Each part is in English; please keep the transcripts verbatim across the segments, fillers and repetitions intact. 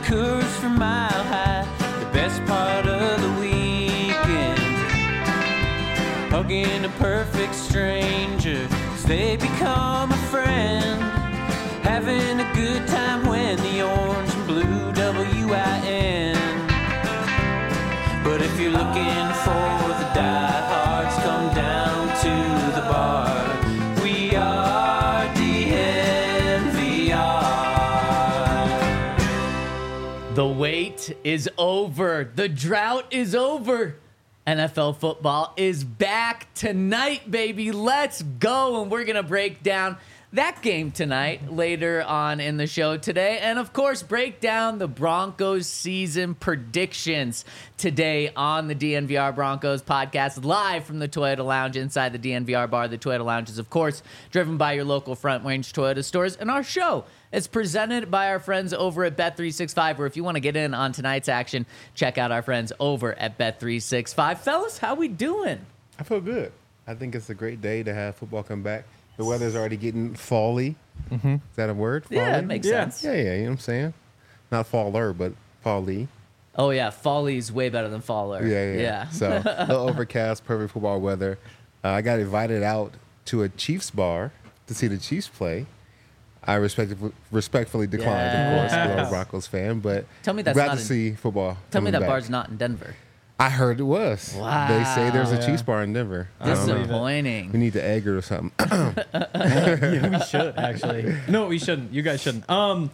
Coors from Mile High, the best part of the weekend. Hugging a perfect stranger as they become a friend. Having a good time when the orange and blue W I N. But if you're looking for the diehards, come down to the bar. We are D N V R. The wait is over. The drought is over. N F L football is back tonight, baby. Let's go. And we're going to break down that game tonight later on in the show today. And, of course, break down the Broncos season predictions today on the D N V R Broncos podcast, live from the Toyota Lounge inside the D N V R bar. The Toyota Lounge is, of course, driven by your local Front Range Toyota stores. And our show is presented by our friends over at Bet three sixty-five, where if you want to get in on tonight's action, check out our friends over at Bet three sixty-five. Fellas, how we doing? I feel good. I think it's a great day to have football come back. The weather's already getting fall-y. Mm-hmm. Is that a word? Fall-y? Yeah, it makes yeah. sense. Yeah, yeah, you know what I'm saying? Not faller, but fall-y. Oh, yeah, Folly's way better than Faller. Yeah, yeah. yeah. So, a little overcast, perfect football weather. Uh, I got invited out to a Chiefs bar to see the Chiefs play. I respect, respectfully declined, Yes. of course, because I'm a Broncos fan, but Tell me that's glad not to in- see football Tell me coming that back. bar's not in Denver. I heard it was. Wow. They say there's a Yeah. Chiefs bar in Denver. I don't know. Disappointing. We need to egg it or something. Yeah, we should actually. No, we shouldn't. You guys shouldn't. Um,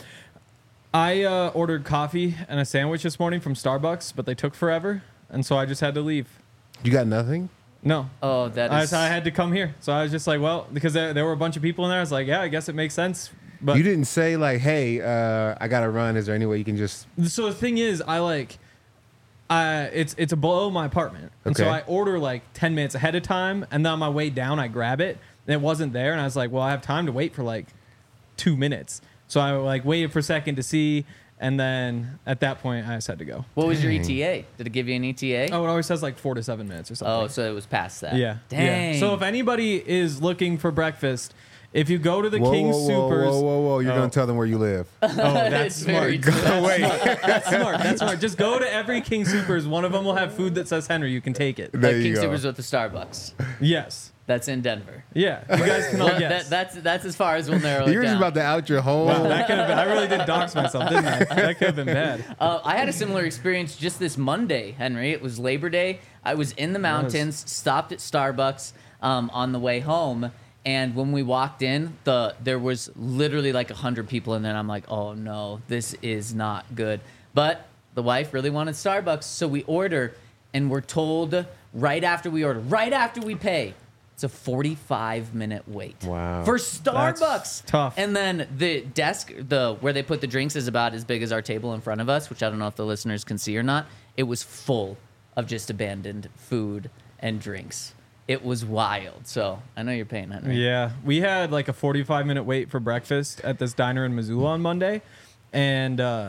I uh, ordered coffee and a sandwich this morning from Starbucks, but they took forever, and so I just had to leave. You got nothing? No. Oh, that I, is. so I had to come here. So I was just like, well, because there, there were a bunch of people in there. I was like, yeah, I guess it makes sense. But You didn't say like, "Hey, uh, I gotta run. Is there any way you can just?" so the thing is, I like, I it's it's below my apartment, and so Okay. I order like ten minutes ahead of time, and then on my way down, I grab it, and it wasn't there, and I was like, well, I have time to wait for like two minutes. So I like waited for a second to see, and then at that point, I just had to go. What was your E T A? Did it give you an E T A? Oh, it always says like four to seven minutes or something. Oh, so it was past that. yeah. Dang. Yeah. So if anybody is looking for breakfast, if you go to the Whoa, King whoa, whoa, Supers, whoa, whoa, whoa! You're Oh. gonna tell them where you live. oh, that's It's very smart. true. Wait, That's smart. That's smart. Just go to every King Supers. One of them will have food that says Henry. You can take it. there Like you King go. Supers with the Starbucks. Yes. That's in Denver. Yeah. You guys can all Well, guess. that, that's that's as far as we'll narrow it You're just down. about to out your home. Wow, that could have been. I really did dox myself, didn't I? That could have been bad. Uh, I had a similar experience just this Monday, Henry. It was Labor Day. I was in the mountains, stopped at Starbucks um, on the way home, and when we walked in, the there was literally like a hundred people in there. And I'm like, oh no, this is not good. But the wife really wanted Starbucks, so we order, and we're told right after we order, right after we pay, it's a forty-five minute wait. Wow. For Starbucks. tough. And then the desk, the where they put the drinks, is about as big as our table in front of us, which I don't know if the listeners can see or not. It was full of just abandoned food and drinks. It was wild. So I know you're paying, Henry. Yeah, we had like a forty-five minute wait for breakfast at this diner in Missoula on Monday, and uh,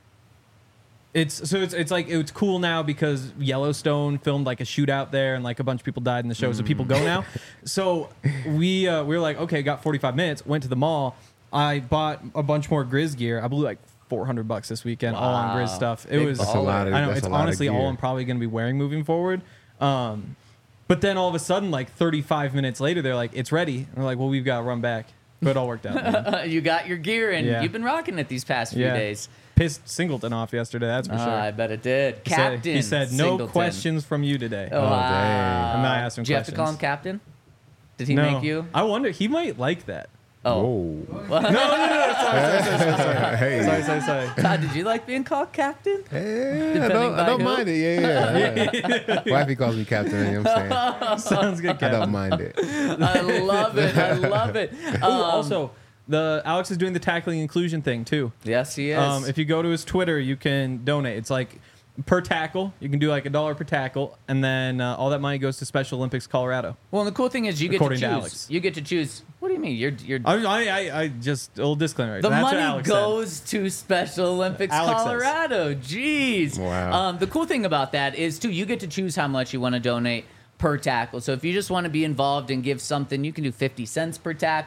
it's so it's it's like it's cool now because Yellowstone filmed like a shootout there, and like a bunch of people died in the show, so people go now. So we uh, we were like, okay, got forty-five minutes. Went to the mall. I bought a bunch more Grizz gear. I blew like four hundred bucks this weekend all on Grizz Wow. stuff. It Big was That's a lot of- I know that's it's a lot of honestly all gear. I'm probably going to be wearing moving forward. Um, but then all of a sudden, like thirty-five minutes later, they're like, it's ready. And we're like, well, we've got to run back. But it all worked out. man. you got your gear, and Yeah. you've been rocking it these past few Yeah. days. Pissed Singleton off yesterday, that's for Ah, sure. I bet it did. He said- Captain. He said, no Singleton. questions from you today. Oh, Oh, wow. dang. And then I asked him Did you have to call him questions. Captain? Did he no. make you? I wonder, he might like that. Oh. Whoa. No, no, no, sorry, sorry, sorry, sorry. Hey. Sorry, sorry, sorry. Todd, did you like being called Captain? Hey, I Depending don't, I by don't who? mind it. Yeah, yeah. yeah. Wifey calls me captain. You know what I'm saying? Sounds good, I Cap. don't mind it. I love it. I love it. Ooh, Um, also, the Alex is doing the tackling inclusion thing, too. yes, he is. Um, if you go to his Twitter, you can donate. It's like per tackle. You can do like a dollar per tackle, and then uh, all that money goes to Special Olympics Colorado. well, and the cool thing is you get to According choose. to Alex. You get to choose. What do you mean? You're you're. I, I, I, I just a little disclaimer. the That's what money Alex said. goes to Special Olympics Alex says. Colorado. Jeez. Wow. Um, the cool thing about that is too, you get to choose how much you want to donate per tackle. So if you just want to be involved and give something, you can do fifty cents per tackle.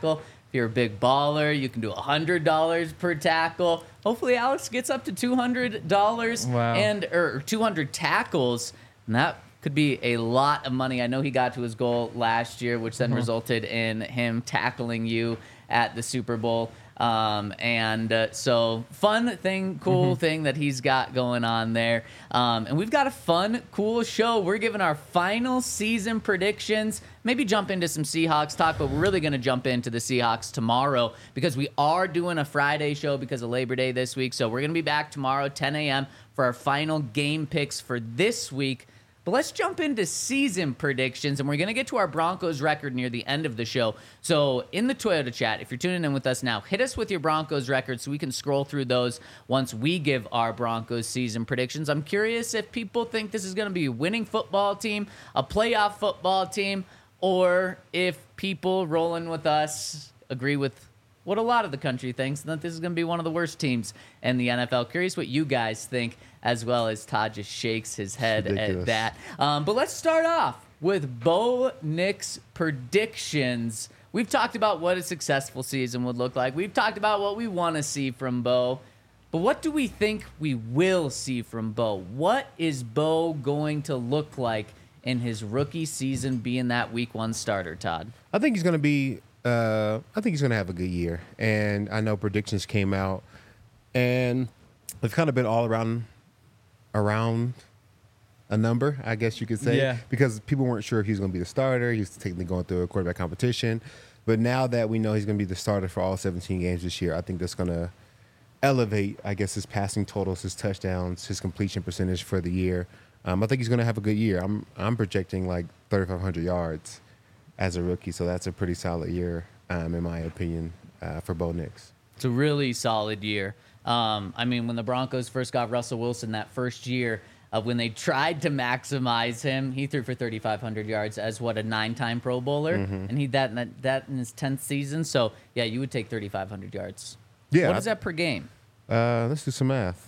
If you're a big baller, you can do one hundred dollars per tackle. Hopefully, Alex gets up to two hundred dollars Wow. and or two hundred tackles, and that could be a lot of money. I know he got to his goal last year, which then resulted in him tackling you at the Super Bowl. Um, and uh, so fun thing, cool Mm-hmm. thing that he's got going on there. Um, and we've got a fun, cool show. We're giving our final season predictions. Maybe jump into some Seahawks talk, but we're really going to jump into the Seahawks tomorrow because we are doing a Friday show because of Labor Day this week. So we're going to be back tomorrow, ten a.m. for our final game picks for this week. But let's jump into season predictions, and we're going to get to our Broncos record near the end of the show. So in the Toyota chat, if you're tuning in with us now, hit us with your Broncos record so we can scroll through those once we give our Broncos season predictions. I'm curious if people think this is going to be a winning football team, a playoff football team, or if people rolling with us agree with what a lot of the country thinks, that this is going to be one of the worst teams in the N F L. Curious what you guys think, as well as Todd just shakes his head at ridiculous. that. Um, but let's start off with Bo Nick's predictions. We've talked about what a successful season would look like. We've talked about what we want to see from Bo. But what do we think we will see from Bo? What is Bo going to look like in his rookie season being that week one starter, Todd? I think he's going to be. Uh, I think he's going to have a good year, and I know predictions came out, and they've kind of been all around, around a number, I guess you could say, Yeah. because people weren't sure if he was going to be the starter. He was technically going through a quarterback competition, but now that we know he's going to be the starter for all seventeen games this year, I think that's going to elevate, I guess, his passing totals, his touchdowns, his completion percentage for the year. Um, I think he's going to have a good year. I'm I'm projecting like thirty-five hundred yards as a rookie, so that's a pretty solid year, um, in my opinion, uh, for Bo Nix. It's a really solid year. Um, I mean, when the Broncos first got Russell Wilson that first year, uh, when they tried to maximize him, he threw for thirty-five hundred yards as what a nine-time Pro Bowler, and he that in that, that in his tenth season. So yeah, you would take thirty-five hundred yards. Yeah. What is that per game? Uh, let's do some math.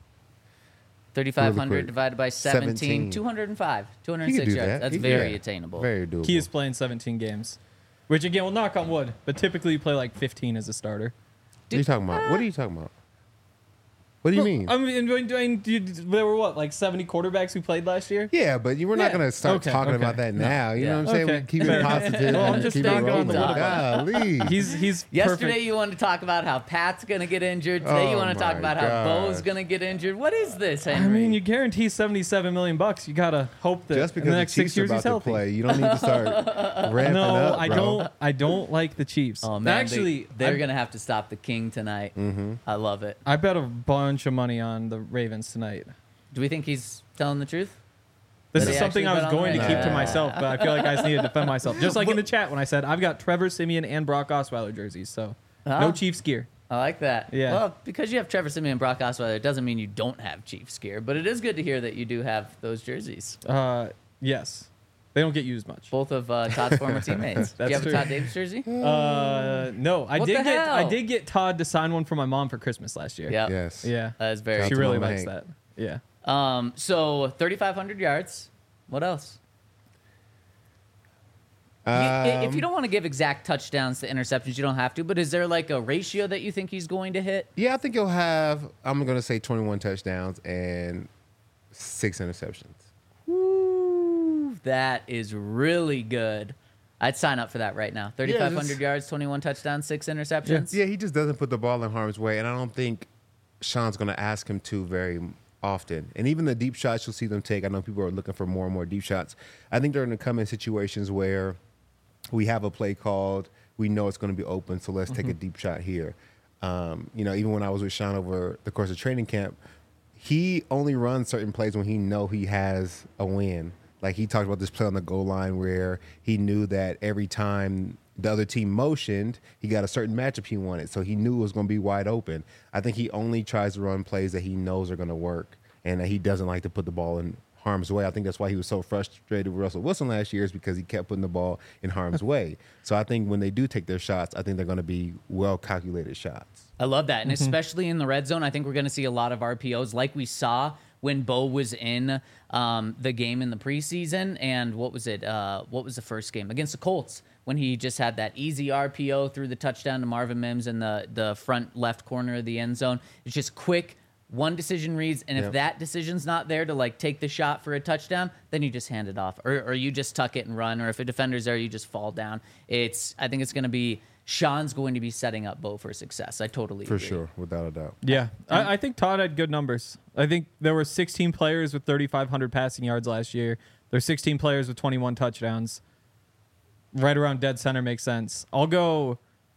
thirty-five hundred quick. divided by seventeen, seventeen. two hundred five, two hundred He could six do yards. that. That's He- very yeah. attainable. Very doable. He is playing seventeen games, which again, well, knock on wood, but typically you play like fifteen as a starter. What are you talking about? What are you talking about? What do you Well, mean? I mean, doing, doing, you- there were what, like seventy quarterbs who played last year? Yeah, but you were not Yeah. going to start Okay, talking okay. about that No. now. You Yeah. know what I'm saying? Okay. We keep Fair it enough. positive. Well, I'm and just keep thinking it on the rolling. wood Golly. He's he's Yesterday perfect. you wanted to talk about how Pat's going to get injured. Today you Oh want to talk my about how Bo's gosh. going to get injured. What is this, Henry? I mean, you guarantee seventy-seven million bucks. You gotta hope that Just in because the the next Chiefs six are years about he's to healthy. play, you don't need to start ramping No, up, I bro. don't. I don't like the Chiefs. Oh man, actually, they, are I, gonna have to stop the King tonight. Mm-hmm. I love it. I bet a bunch of money on the Ravens tonight. Do we think he's telling the truth? This Did is he something I actually was bet on going to the keep to Ravens? myself, but I feel like I just need to defend myself. Just like in the chat when I said I've got Trevor Simeon and Brock Osweiler jerseys, so Huh? no Chiefs gear. I like that. Yeah. Well, because you have Trevor Simeon and Brock Osweiler, it doesn't mean you don't have Chiefs gear, but it is good to hear that you do have those jerseys. Uh, yes, they don't get used much. Both of uh, Todd's former teammates. Do you That's have true. a Todd Davis jersey? Uh, no, I What did the get I hell? did get Todd to sign one for my mom for Christmas last year. Yeah. Yes. Yeah. That is very She to really Mama likes Hank. that. Yeah. Um, so thirty-five hundred yards. What else? You- if Um, you don't want to give exact touchdowns to interceptions, you don't have to. But is there like a ratio that you think he's going to hit? Yeah, I think he'll have, I'm going to say twenty-one touchdowns and six interceptions. Woo, that is really good. I'd sign up for that right now. thirty-five hundred just- yards, twenty-one touchdowns, six interceptions. Yeah, he just doesn't put the ball in harm's way, and I don't think Sean's going to ask him to very often. And even the deep shots you'll see them take, I know people are looking for more and more deep shots. I think they're going to come in situations where we have a play called, we know it's going to be open, so let's take a deep shot here. Um, you know, even when I was with Sean over the course of training camp, he only runs certain plays when he know he has a win. Like he talked about this play on the goal line where he knew that every time the other team motioned, he got a certain matchup he wanted. So he knew it was going to be wide open. I think he only tries to run plays that he knows are going to work and that he doesn't like to put the ball in harm's way. I think that's why he was so frustrated with Russell Wilson last year, is because he kept putting the ball in harm's way. So I think when they do take their shots, I think they're going to be well-calculated shots. I love that. And especially in the red zone, I think we're going to see a lot of R P Os like we saw when Bo was in um, the game in the preseason. And what was it? Uh, what was the first game? Against the Colts, when he just had that easy R P O through the touchdown to Marvin Mims in the, the front left corner of the end zone. It's just quick, one decision reads, and if Yep. that decision's not there to like take the shot for a touchdown, then you just hand it off, or, or you just tuck it and run, or if a defender's there, you just fall down. It's I think it's going to be Sean's going to be setting up Bo for success. I totally For agree. sure, without a doubt. Yeah, I, I think Todd had good numbers. I think there were sixteen players with thirty-five hundred passing yards last year. There's sixteen players with twenty-one touchdowns. Right around dead center makes sense. I'll go,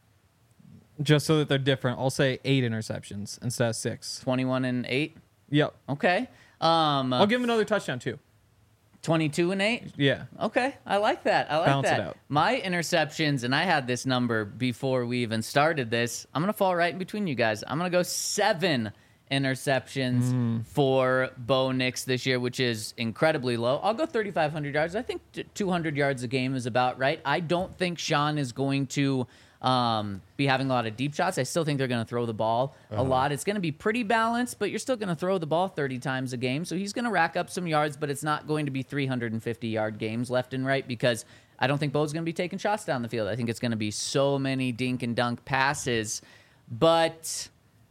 just so that they're different, I'll say eight interceptions instead of six. twenty-one and eight. Yep. Okay. Um, I'll give him another touchdown too. twenty-two and eight. Yeah. Okay, I like that. I like Balance it that. out. My interceptions, and I had this number before we even started this. I'm gonna fall right in between you guys. I'm gonna go seven interceptions Mm. for Bo Nix this year, which is incredibly low. I'll go thirty-five hundred yards. I think t- two hundred yards a game is about right. I don't think Sean is going to um, be having a lot of deep shots. I still think they're going to throw the ball a lot. It's going to be pretty balanced, but you're still going to throw the ball thirty times a game. So he's going to rack up some yards, but it's not going to be three hundred fifty yard games left and right because I don't think Bo's going to be taking shots down the field. I think it's going to be so many dink and dunk passes. But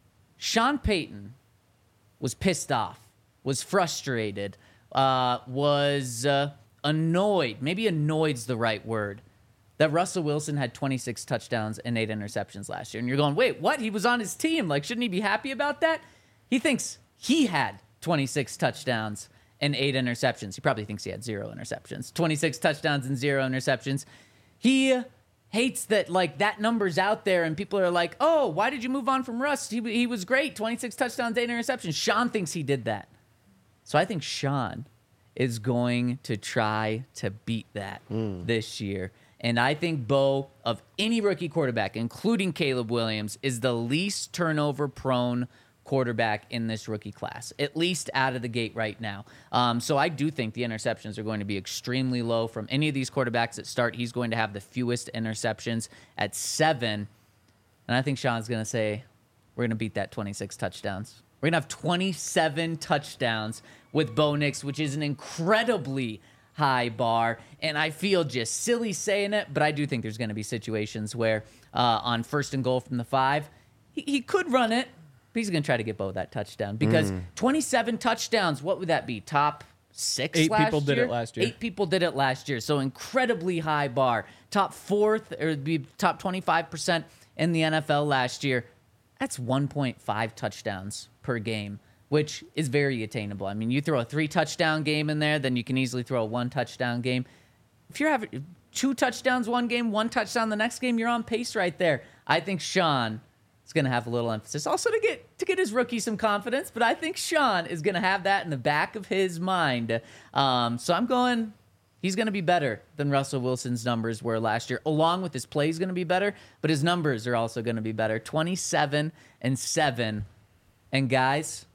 Sean Payton was pissed off, was frustrated, uh, was uh, annoyed. Maybe annoyed's the right word. That Russell Wilson had twenty-six touchdowns and eight interceptions last year. And you're going, wait, what? He was on his team. Like, shouldn't he be happy about that? He thinks he had twenty-six touchdowns and eight interceptions. He probably thinks he had zero interceptions. twenty-six touchdowns and zero interceptions. He hates that, like, that number's out there and people are like, oh, why did you move on from Russ? He, he was great. twenty-six touchdowns, eight interceptions. Sean thinks he did that. So I think Sean is going to try to beat that this year. And I think Bo, of any rookie quarterback, including Caleb Williams, is the least turnover-prone quarterback in this rookie class, at least out of the gate right now. Um, so I do think the interceptions are going to be extremely low from any of these quarterbacks that start. He's going to have the fewest interceptions at seven. And I think Sean's going to say, we're going to beat that twenty-six touchdowns. We're going to have twenty-seven touchdowns with Bo Nix, which is an incredibly high bar, and I feel just silly saying it, but I do think there's going to be situations where uh, on first and goal from the five, he, he could run it, but he's going to try to get Bo that touchdown because twenty-seven touchdowns, what would that be? Top six Eight last people did year? it last year. Eight people did it last year, so incredibly high bar. Top fourth, or it'd be top twenty-five percent in the N F L last year. That's one point five touchdowns per game, which is very attainable. I mean, you throw a three-touchdown game in there, then you can easily throw a one-touchdown game. If you're having two touchdowns one game, one touchdown the next game, you're on pace right there. I think Sean is going to have a little emphasis. Also to get to get his rookie some confidence, but I think Sean is going to have that in the back of his mind. Um, so I'm going... He's going to be better than Russell Wilson's numbers were last year, along with his plays going to be better, but his numbers are also going to be better. twenty-seven and seven. And guys,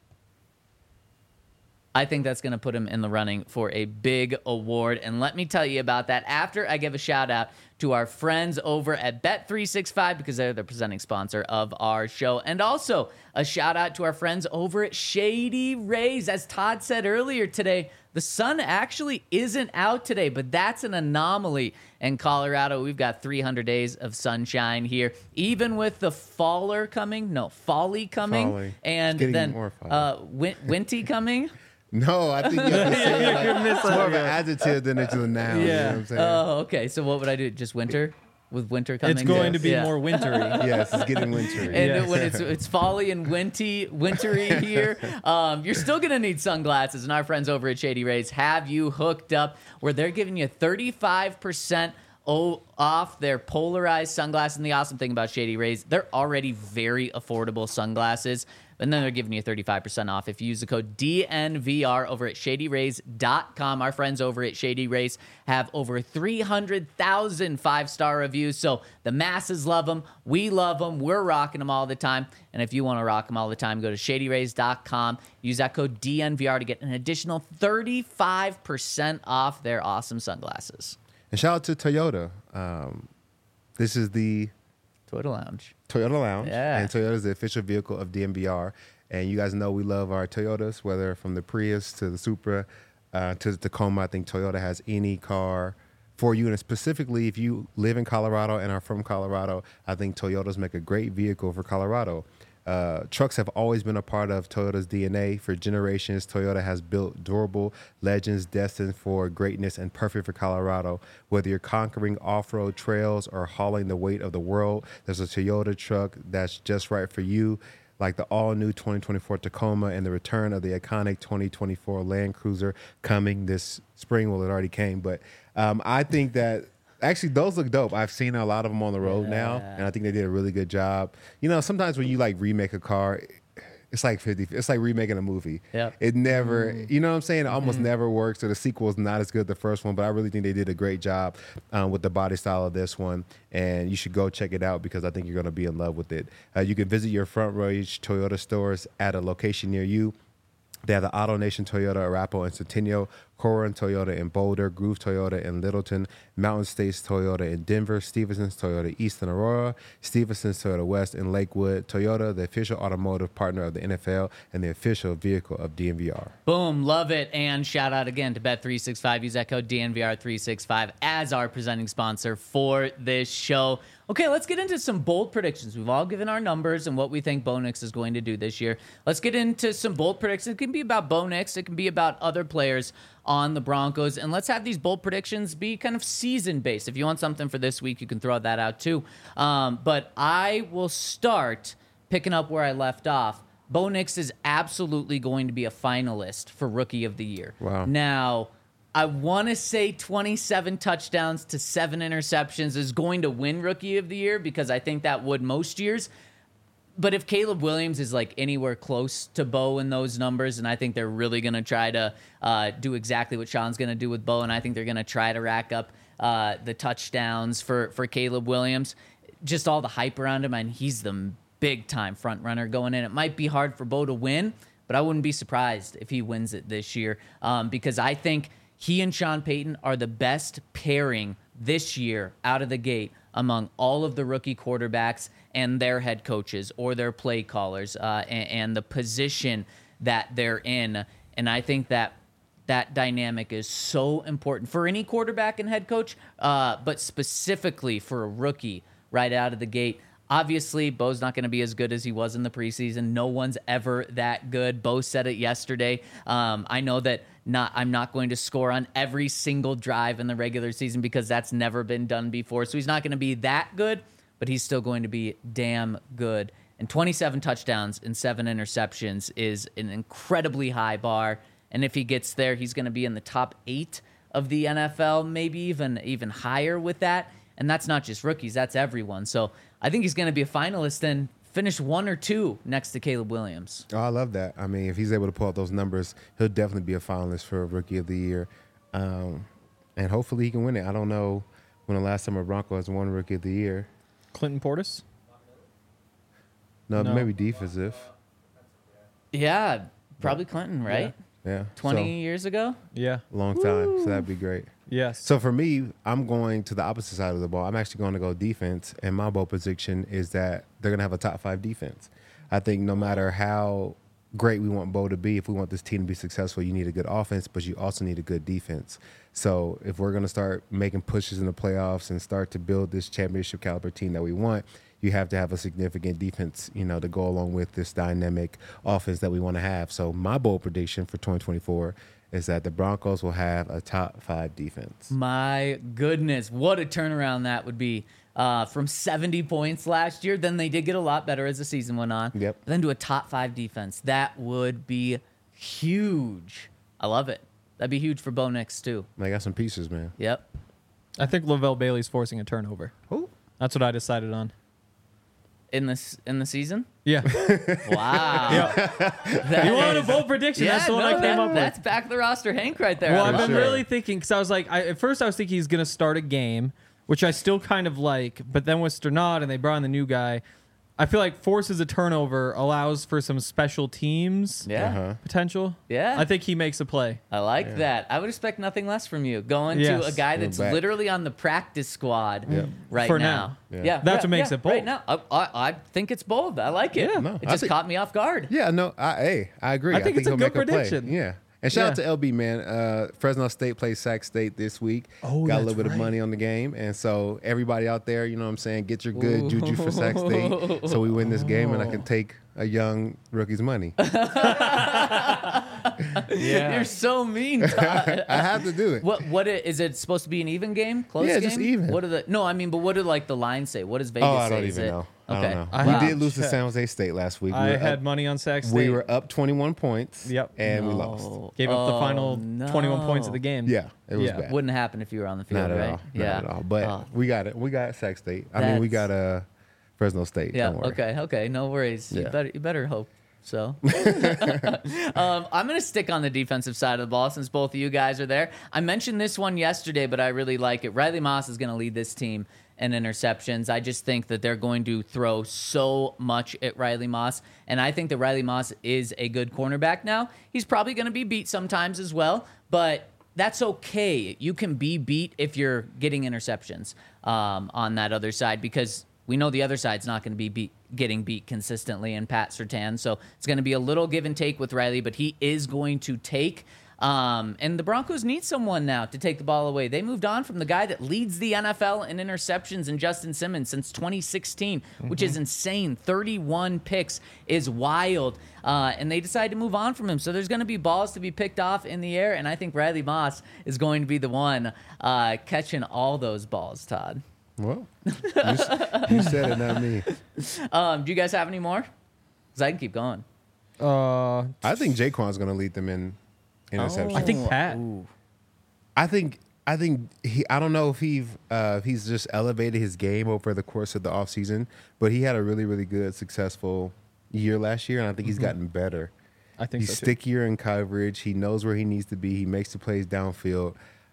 I think that's going to put him in the running for a big award. And let me tell you about that after I give a shout out to our friends over at Bet three sixty-five because they're the presenting sponsor of our show. And also a shout out to our friends over at Shady Rays. As Todd said earlier today, the sun actually isn't out today, but that's an anomaly in Colorado. We've got three hundred days of sunshine here, even with the faller coming. No, folly coming. Folly. And It's getting then more folly. uh, win- Winty coming. No, I think you have to say it like, it's more of an adjective than it's a noun. You know Yeah. what I'm saying? Oh, okay. So what would I do? Just winter? With winter coming? It's going Yes. to be Yeah. more wintry. Yes, it's getting wintry. And Yes. when it's it's folly and winty, wintry here, um, you're still gonna need sunglasses. And our friends over at Shady Rays have you hooked up, where they're giving you thirty-five percent off their polarized sunglasses. And the awesome thing about Shady Rays, they're already very affordable sunglasses. And then they're giving you thirty-five percent off if you use the code D N V R over at shady rays dot com. Our friends over at Shady Rays have over three hundred thousand five-star reviews, so the masses love them. We love them. We're rocking them all the time. And if you want to rock them all the time, go to shady rays dot com. Use that code D N V R to get an additional thirty-five percent off their awesome sunglasses. And shout out to Toyota. Um, this is the Toyota Lounge. Toyota Lounge. Yeah. And Toyota is the official vehicle of D N V R. And you guys know we love our Toyotas, whether from the Prius to the Supra uh, to the Tacoma. I think Toyota has any car for you. And specifically, if you live in Colorado and are from Colorado, I think Toyotas make a great vehicle for Colorado. Uh, trucks have always been a part of Toyota's D N A. For generations, Toyota has built durable legends destined for greatness and perfect for Colorado. Whether you're conquering off-road trails or hauling the weight of the world, there's a Toyota truck that's just right for you, like the all-new twenty twenty-four Tacoma and the return of the iconic twenty twenty-four Land Cruiser coming this spring. Well, it already came, but um, I think that actually those look dope. I've seen a lot of them on the road now, and I think they did a really good job. You know, sometimes when you like remake a car, it's like fifty. It's like remaking a movie. Yep. It never, Mm. you know what I'm saying? It almost mm. never works. So the sequel is not as good as the first one, but I really think they did a great job um, with the body style of this one. And you should go check it out because I think you're going to be in love with it. Uh, you can visit your Front Range Toyota stores at a location near you. They have the Auto Nation Toyota, Arapahoe and Centennial, Corin Toyota in Boulder, Groove Toyota in Littleton, Mountain States Toyota in Denver, Stevenson's Toyota East in Aurora, Stevenson's Toyota West in Lakewood. Toyota, the official automotive partner of the N F L and the official vehicle of D N V R. Boom, love it. And shout out again to Bet three sixty-five. Use that code D N V R three sixty-five as our presenting sponsor for this show. Okay, let's get into some bold predictions. We've all given our numbers and what we think Bo Nix is going to do this year. Let's get into some bold predictions. It can be about Bo Nix. It can be about other players on the Broncos. And let's have these bold predictions be kind of season-based. If you want something for this week, you can throw that out too. Um, but I will start picking up where I left off. Bo Nix is absolutely going to be a finalist for Rookie of the Year. Wow. Now, I want to say twenty-seven touchdowns to seven interceptions is going to win Rookie of the Year because I think that would most years. But if Caleb Williams is like anywhere close to Bo in those numbers, and I think they're really going to try to uh, do exactly what Sean's going to do with Bo, and I think they're going to try to rack up uh, the touchdowns for, for Caleb Williams, just all the hype around him, and he's the big-time front runner going in. It might be hard for Bo to win, but I wouldn't be surprised if he wins it this year um, because I think he and Sean Payton are the best pairing this year out of the gate among all of the rookie quarterbacks and their head coaches or their play callers uh, and, and the position that they're in. And I think that that dynamic is so important for any quarterback and head coach, uh, but specifically for a rookie right out of the gate. Obviously, Bo's not going to be as good as he was in the preseason. No one's ever that good. Bo said it yesterday. Um, I know that not I'm not going to score on every single drive in the regular season because that's never been done before. So he's not going to be that good, but he's still going to be damn good. And twenty-seven touchdowns and seven interceptions is an incredibly high bar. And if he gets there, he's going to be in the top eight of the N F L, maybe even even higher with that. And that's not just rookies, that's everyone. So I think he's going to be a finalist and finish one or two next to Caleb Williams. Oh, I love that. I mean, if he's able to pull out those numbers, he'll definitely be a finalist for Rookie of the Year. Um, and hopefully he can win it. I don't know when the last time a Bronco has won Rookie of the Year. Clinton Portis? No, No. maybe defensive. Yeah, probably Clinton, right? Yeah. twenty So, years ago? Yeah. long time. So that'd be great. Yes. So for me, I'm going to the opposite side of the ball. I'm actually going to go defense, and my bold prediction is that they're going to have a top five defense. I think no matter how great we want Bo to be, if we want this team to be successful, you need a good offense, but you also need a good defense. So if we're going to start making pushes in the playoffs and start to build this championship caliber team that we want, you have to have a significant defense, you know, to go along with this dynamic offense that we want to have. So my bold prediction for twenty twenty-four is that the Broncos will have a top five defense. My goodness, what a turnaround that would be. Uh, from seventy points last year, then they did get a lot better as the season went on. Yep. But then to a top five defense. That would be huge. I love it. That'd be huge for Bo Nix, too. I got some pieces, man. Yep. I think Lavelle Bailey's forcing a turnover. Who? That's what I decided on. In this in the season? Yeah. Wow. That You wanted a is- bold prediction. Yeah, That's the one no, I came that- up with. That's back the roster Hank right there. Well, I I've love been sure. it. really thinking because I was like, I, at first I was thinking he's gonna start a game, which I still kind of like, but then with Sternad and they brought in the new guy, I feel like forces a turnover, allows for some special teams Yeah. Uh-huh. potential. Yeah. I think he makes a play. I like that. I would expect nothing less from you. Going Yes. to a guy that's back. literally on the practice squad Yeah. right For now. now. Yeah. Yeah. That's yeah, what makes yeah, it bold. Right now. I, I, I think it's bold. I like it. Yeah. No, it I just think- caught me off guard. Yeah, no, I, hey, I agree. I think it's a he'll good make prediction. play. Yeah. And shout out Yeah. to L B, man. Uh, Fresno State plays Sac State this week. Oh, Got a that's little bit of right. money on the game. And so everybody out there, you know what I'm saying, get your good juju for Sac State so we win this game and I can take a young rookie's money. Yeah. You're so mean, Todd. I have to do it. What what i- is it supposed to be an even game? Close Yeah, game? just even. What are the No, I mean, but what do like the lines say? What does Vegas Oh, I say? don't Is even it- know. Okay. I don't know. I we have did lose to checked. San Jose State last week. We I were had up, money on Sac State. we were up twenty-one points. Yep. And we No. lost. Gave up the Oh, final twenty-one points of no. the game. Yeah, it was Yeah. bad. Wouldn't happen if you were on the field, Not at right? all. Yeah. Not at all. But Oh, we got it. We got Sac State. I mean, we got That's- uh, Fresno State. yeah. Don't worry. Okay. Okay. No worries. You Yeah. better. You better hope so. um, I'm going to stick on the defensive side of the ball since both of you guys are there. I mentioned this one yesterday, but I really like it. Riley Moss is going to lead this team in interceptions. I just think that they're going to throw so much at Riley Moss, and I think that Riley Moss is a good cornerback now. He's probably going to be beat sometimes as well, but that's okay. You can be beat if you're getting interceptions um, on that other side because we know the other side's not going to be beat, getting beat consistently in Pat Surtain. So it's going to be a little give and take with Riley, but he is going to take. Um, and the Broncos need someone now to take the ball away. They moved on from the guy that leads the N F L in interceptions in Justin Simmons since twenty sixteen, mm-hmm. which is insane. thirty-one picks is wild. Uh, and they decided to move on from him. So there's going to be balls to be picked off in the air. And I think Riley Moss is going to be the one uh, catching all those balls, Todd. Well, you, s- you said it, not me. Um, do you guys have any more? Because I can keep going. Uh, I think Jaquan's going to lead them in interceptions. I think Pat. Ooh. I think I think he. I don't know if he uh, if he's just elevated his game over the course of the offseason, but he had a really really good successful year last year, and I think he's gotten better. I think He's so too. stickier in coverage. He knows where he needs to be. He makes the plays downfield.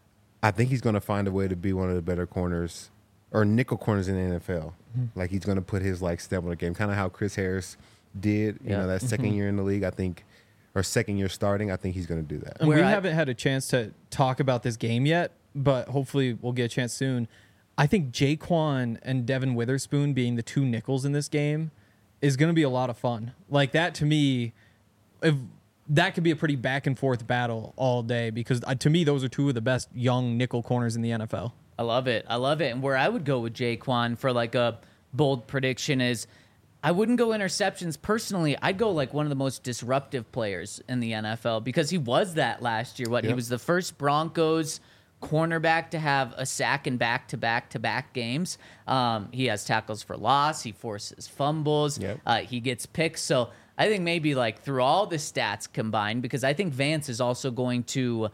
I think he's going to find a way to be one of the better corners or nickel corners in the N F L. Mm-hmm. Like he's going to put his like stamp on the game, kind of how Chris Harris did. You Yeah. know, that second Mm-hmm. year in the league. I think, or second year starting. I think he's going to do that. And Where we I- haven't had a chance to talk about this game yet, but hopefully we'll get a chance soon. I think Jaquan and Devin Witherspoon being the two nickels in this game is going to be a lot of fun. Like that to me, if that could be a pretty back and forth battle all day because uh, to me those are two of the best young nickel corners in the N F L. I love it. I love it. And where I would go with Jaquan for like a bold prediction is I wouldn't go interceptions personally. I'd go like one of the most disruptive players in the N F L because he was that last year. What he Yep. was the first Broncos cornerback to have a sack in back to back to back games. Um, he has tackles for loss. He forces fumbles. Yep. Uh, he gets picks. So I think maybe like through all the stats combined, because I think Vance is also going to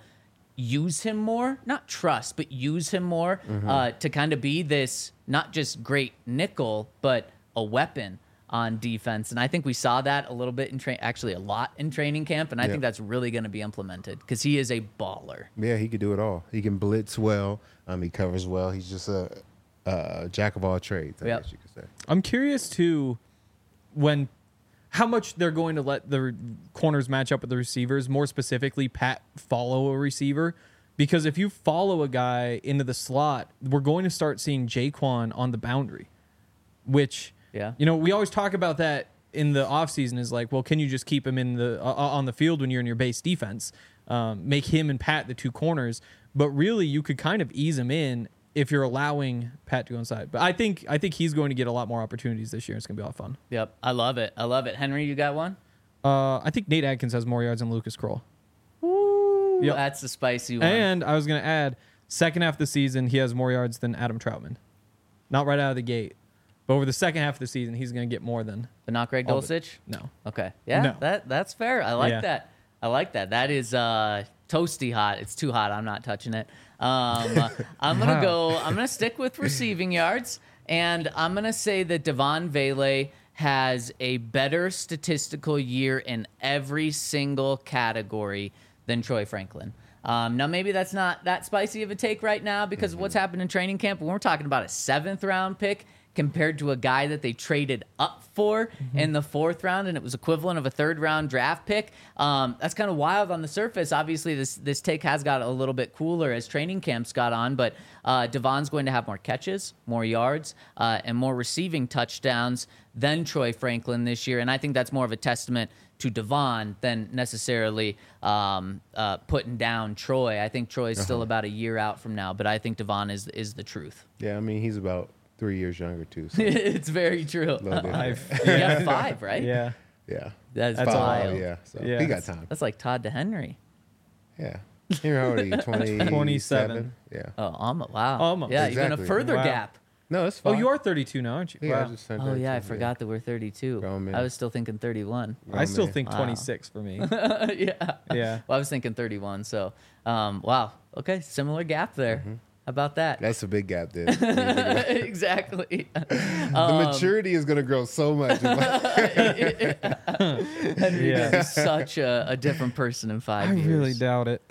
use him more, not trust, but use him more uh, to kind of be this not just great nickel, but a weapon on defense. And I think we saw that a little bit in train, actually a lot in training camp. And I Yeah. think that's really going to be implemented because he is a baller. Yeah, he could do it all. He can blitz well. Um, he covers well. He's just a, a jack of all trades, I Yep. guess you could say. I'm curious too when how much they're going to let the corners match up with the receivers, more specifically Pat follow a receiver. Because if you follow a guy into the slot, we're going to start seeing Jaquan on the boundary, which, Yeah. you know, we always talk about that in the offseason is like, well, can you just keep him in the uh, on the field when you're in your base defense? Um, make him and Pat the two corners. But really, you could kind of ease him in if you're allowing Pat to go inside. But I think I think he's going to get a lot more opportunities this year. It's going to be a lot of fun. Yep. I love it. I love it. Henry, you got one? Uh, I think Nate Adkins has more yards than Lucas Kroll. Yep. That's the spicy one. And I was going to add, second half of the season, he has more yards than Adam Troutman. Not right out of the gate. But over the second half of the season, he's going to get more than. but not Greg all the- Dulcich? No. Okay. Yeah, No. that that's fair. I like Yeah. that. I like that. That is uh, toasty hot. It's too hot. I'm not touching it. Um, I'm gonna Wow. go. I'm gonna stick with receiving yards, and I'm gonna say that Devon Vele has a better statistical year in every single category than Troy Franklin. Um, now, maybe that's not that spicy of a take right now because of what's happened in training camp. But when we're talking about a seventh round pick, compared to a guy that they traded up for Mm-hmm. in the fourth round, and it was equivalent of a third round draft pick. Um, that's kind of wild on the surface. Obviously, this this take has got a little bit cooler as training camps got on, but uh, Devon's going to have more catches, more yards, uh, and more receiving touchdowns than Troy Franklin this year, and I think that's more of a testament to Devon than necessarily um, uh, putting down Troy. I think Troy's Uh-huh. still about a year out from now, but I think Devon is is the truth. Yeah, I mean he's about three years younger too. So It's very true. a little different. I've, You got five, right? yeah. yeah, That's, That's wild. Oh, yeah. So Yeah. he got time. That's like Todd DeHenry. Yeah. You're how old are you? Twenty twenty-seven. Yeah. Oh, um, wow. Almost. Yeah, even Exactly. a further Wow. gap. No, it's Oh, fine. you are thirty-two now, aren't you? Yeah, I Wow. just turned Oh, yeah, I thirty-two, forgot that we're thirty-two. Grown man. I was still thinking thirty-one. I still man. think Wow. twenty-six for me. yeah. Yeah. Well, I was thinking thirty-one. So, um, wow. Okay, similar gap there. Mm-hmm. How about that? That's a big gap then. when you think about it. exactly. the Um, maturity is gonna grow so much. Henry Yeah. is such a, a different person in five I years. really doubt it.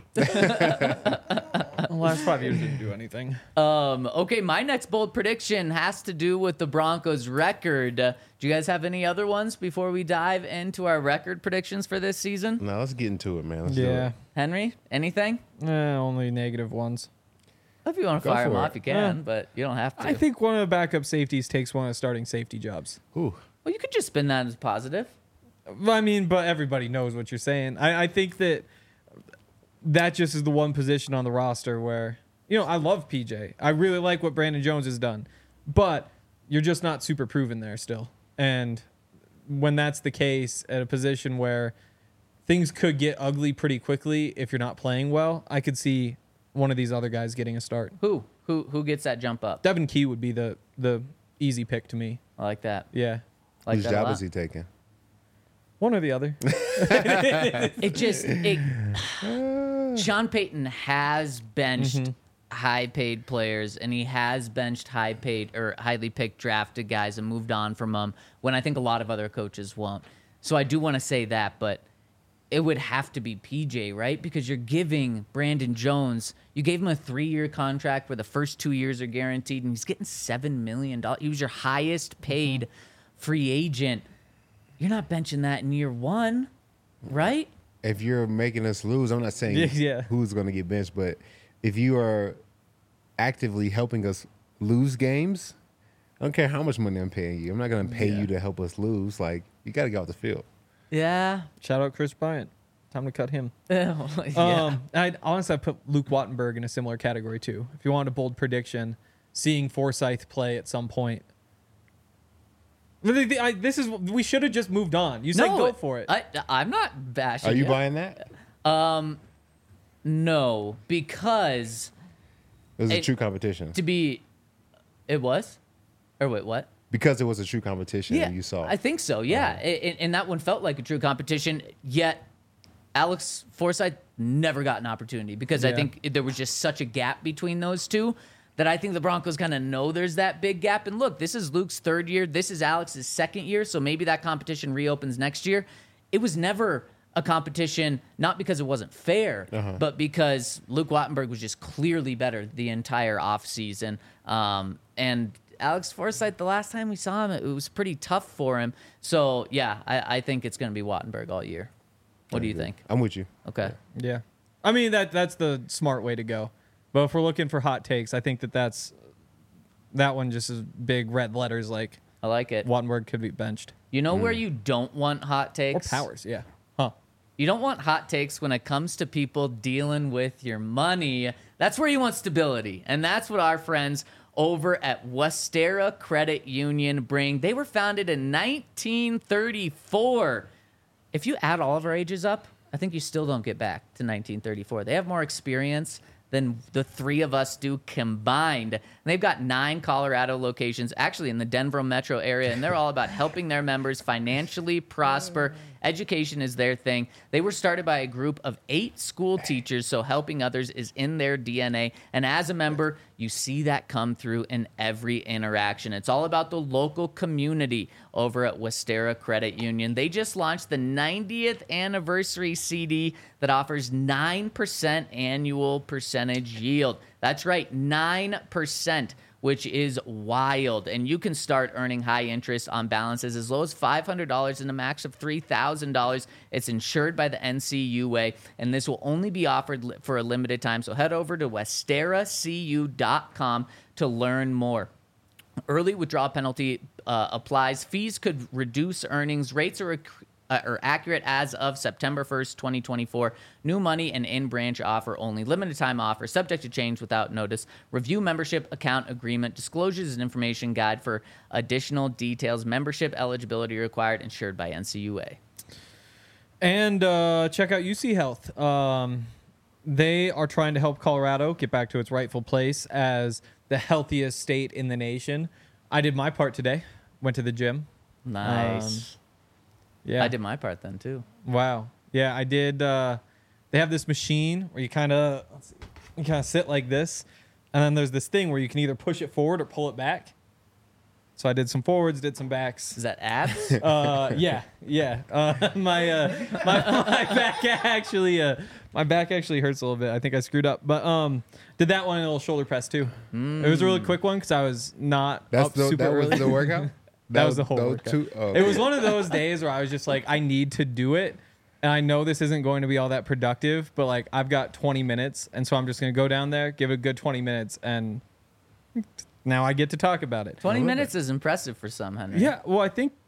The last five years didn't do anything. Um, okay, my next bold prediction has to do with the Broncos' record. Uh, do you guys have any other ones before we dive into our record predictions for this season? No, let's get into it, man. Let's do Yeah. it. Henry, anything? Eh, only negative ones. If you want to Go fire them for off, it. you can, Yeah. but you don't have to. I think one of the backup safeties takes one of the starting safety jobs. Ooh. well, you could just spin that as positive. Well, I mean, but everybody knows what you're saying. I, I think that that just is the one position on the roster where, you know, I love P J. I really like what Brandon Jones has done, but you're just not super proven there still. And when that's the case at a position where things could get ugly pretty quickly if you're not playing well, I could see one of these other guys getting a start. Who? Who? Who gets that jump up? Devin Key would be the the easy pick to me. I like that. Yeah. I like Whose that a job lot. is he taking? One or the other. It just it. Sean Payton has benched Mm-hmm. high-paid players, and he has benched high-paid or highly picked drafted guys and moved on from them. When I think a lot of other coaches won't. So I do want to say that, but it would have to be P J, right? Because you're giving Brandon Jones, you gave him a three-year contract where the first two years are guaranteed, and he's getting seven million dollars. He was your highest-paid free agent. You're not benching that in year one, right? If you're making us lose, I'm not saying Yeah, yeah. who's going to get benched, but if you are actively helping us lose games, I don't care how much money I'm paying you. I'm not going to pay Yeah. you to help us lose. Like, you got to get off the field. Yeah. Shout out Chris Bryant. Time to cut him. yeah. Um, I honestly I put Luke Wattenberg in a similar category too. If you wanted a bold prediction, seeing Forsyth play at some point. The- the- I- This is we should have just moved on. You said go for it. I, I'm not bashing Are you it. buying that? No, because It was a It- true competition. to be, it was, or wait, what? Because it was a true competition Yeah, and you saw. I think so. Yeah, Uh-huh. A- a- and that one felt like a true competition. Yet, Alex Forsythe never got an opportunity because I Yeah. think there was just such a gap between those two that I think the Broncos kind of know there's that big gap. And look, this is Luke's third year. This is Alex's second year. So maybe that competition reopens next year. It was never a competition, not because it wasn't fair, Uh-huh. but because Luke Wattenberg was just clearly better the entire offseason. Um, and Alex Forsythe, the last time we saw him, it was pretty tough for him. So, yeah, I, I think it's going to be Wattenberg all year. What do you think? I'm with you. Okay. Yeah, I mean that that's the smart way to go. But if we're looking for hot takes, I think that that's that one just is big red letters like I like it. Wattenberg could be benched You know where you don't want hot or takes? Powers. Yeah, huh? You don't want hot takes when it comes to people dealing with your money. That's where you want stability. And that's what our friends over at Westera Credit Union bring. They were founded in nineteen thirty-four. If you add all of our ages up, I think you still don't get back to nineteen thirty-four. They have more experience than the three of us do combined. And they've got nine Colorado locations, actually in the Denver metro area, and they're all about helping their members financially prosper. Education is their thing. They were started by a group of eight school teachers, so helping others is in their D N A. And as a member, you see that come through in every interaction. It's all about the local community over at Westera Credit Union. They just launched the ninetieth anniversary C D that offers nine percent annual percentage yield. That's right, nine percent. which is wild. And you can start earning high interest on balances as low as five hundred dollars and a max of three thousand dollars. It's insured by the N C U A, and this will only be offered li- for a limited time. So head over to westera c u dot com to learn more. Early withdrawal penalty uh, applies. Fees could reduce earnings. Rates are, uh, are accurate as of September first, twenty twenty-four. New money and in-branch offer only. Limited time offer. Subject to change without notice. Review membership account agreement. Disclosures and information guide for additional details. Membership eligibility required. Insured by N C U A. And uh, check out U C Health. Um, they are trying to help Colorado get back to its rightful place as the healthiest state in the nation. I did my part today. Went to the gym. Nice. Yeah. I did my part then, too. Wow. Yeah, I did. Uh, they have this machine where you kind of you kind of sit like this, and then there's this thing where you can either push it forward or pull it back. So I did some forwards, did some backs. Is that abs? Uh, yeah, yeah. Uh, my, uh, my my back actually uh, my back actually hurts a little bit. I think I screwed up, but um, did that one in a little shoulder press too. Mm. It was a really quick one because I was not That's up the, super that early. was the workout. That was the whole those workout. Two, oh, It was one of those days where I was just like, I need to do it. And I know this isn't going to be all that productive, but like I've got twenty minutes. And so I'm just going to go down there, give it a good twenty minutes. And now I get to talk about it. twenty love minutes is impressive for some, Henry. Yeah. Well, I think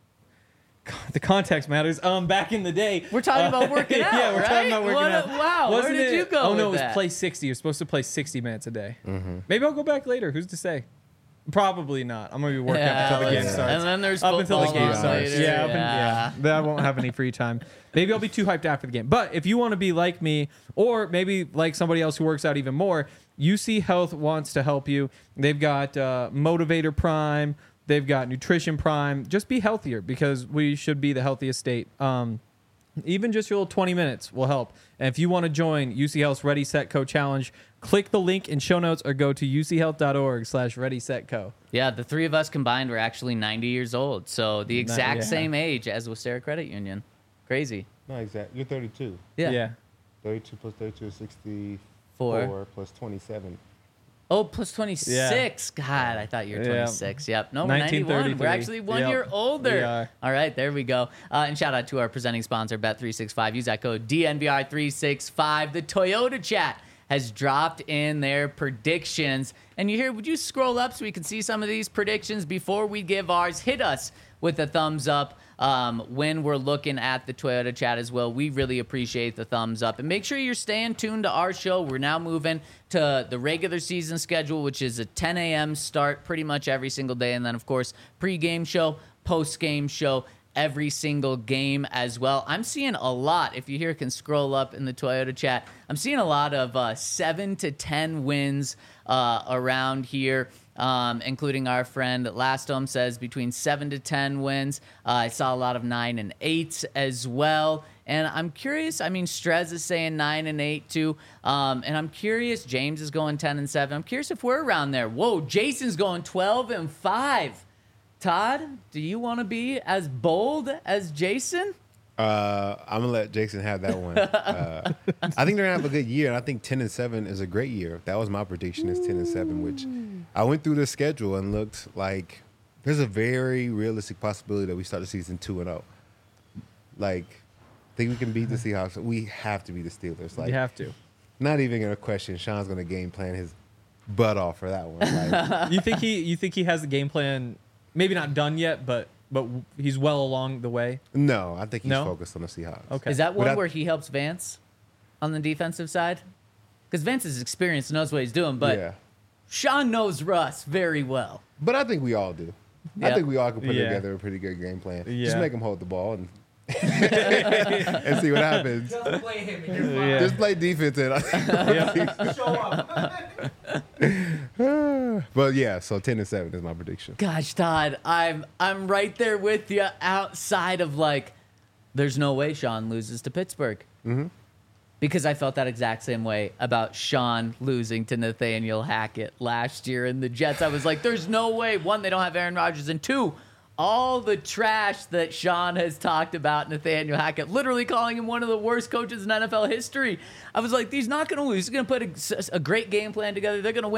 the context matters. Um, Back in the day. We're talking about working out, Yeah, we're right? talking about working What a- out. wow, where Wasn't did it- you go Oh, no, with it was that? play sixty. You're supposed to play sixty minutes a day. Mm-hmm. Maybe I'll go back later. Who's to say? Probably not. I'm going to be working Yeah, up until the game let's- starts. And then there's Up until the football game on starts. later. Yeah, up in- yeah. yeah. Then I won't have any free time. Maybe I'll be too hyped after the game. But if you want to be like me, or maybe like somebody else who works out even more, U C Health wants to help you. They've got uh, Motivator Prime. They've got Nutrition Prime. Just be healthier because we should be the healthiest state. Um, even just your little twenty minutes will help. And if you want to join U C Health's Ready, Set, Co challenge, click the link in show notes or go to u c health dot org slash ready, set, co. Yeah, the three of us combined were actually ninety years old. So the exact yeah. same age as Westera Credit Union. Crazy. no, exactly. You're thirty-two. Yeah. Yeah. thirty-two plus thirty-two is sixty-four Four. plus twenty-seven. Oh, plus twenty-six. God, I thought you were Yeah. twenty-six. Yep. No, we're ninety-one. We're nineteen thirty-three. actually one Yep. year older. We are. All right, there we go. Uh, and shout out to our presenting sponsor, Bet three sixty-five. Use that code D N V R three sixty-five. The Toyota chat has dropped in their predictions. And you hear, would you scroll up so we can see some of these predictions before we give ours? Hit us with a thumbs up um, when we're looking at the Toyota chat as well. We really appreciate the thumbs up. And make sure you're staying tuned to our show. We're now moving to the regular season schedule, which is a ten a.m. start pretty much every single day. And then, of course, pregame show, postgame show, every single game as well. I'm seeing a lot, if you here can scroll up in the Toyota chat, I'm seeing a lot of uh, seven to ten wins uh, around here, um, including our friend Lastom says between seven to ten wins. Uh, I saw a lot of nine and eights as well. And I'm curious, I mean, Strez is saying nine and eight too. Um, and I'm curious, James is going ten and seven. I'm curious if we're around there. Whoa, Jason's going twelve and five. Todd, do you want to be as bold as Jason? Uh, I'm gonna let Jason have that one. Uh, I think they're gonna have a good year, and I think ten and seven is a great year. That was my prediction: is ten and seven. Which I went through the schedule and looked like there's a very realistic possibility that we start the season two and zero. Like, think we can beat the Seahawks? We have to beat the Steelers. Like, You have to. not even gonna question. Sean's gonna game plan his butt off for that one. Like, You think he? You think he has the game plan? Maybe not done yet, but but he's well along the way. no, I think he's No? focused on the Seahawks. Okay. Is that one Without- where he helps Vance on the defensive side? Because Vance is experienced and knows what he's doing, but yeah, Sean knows Russ very well. but I think we all do. Yeah. I think we all can put Yeah. together a pretty good game plan. Yeah. Just make him hold the ball and and see what happens. Just play him and you're fine. Yeah. Just play defense. And Show up. but yeah, so ten and seven is my prediction. Gosh, Todd, I'm I'm right there with you. Outside of like, there's no way Sean loses to Pittsburgh. Mm-hmm. Because I felt that exact same way about Sean losing to Nathaniel Hackett last year in the Jets. I was like, there's no way. One, they don't have Aaron Rodgers, and two, all the trash that Sean has talked about Nathaniel Hackett, literally calling him one of the worst coaches in N F L history. I was like, he's not going to lose. He's going to put a, a great game plan together. They're going to win.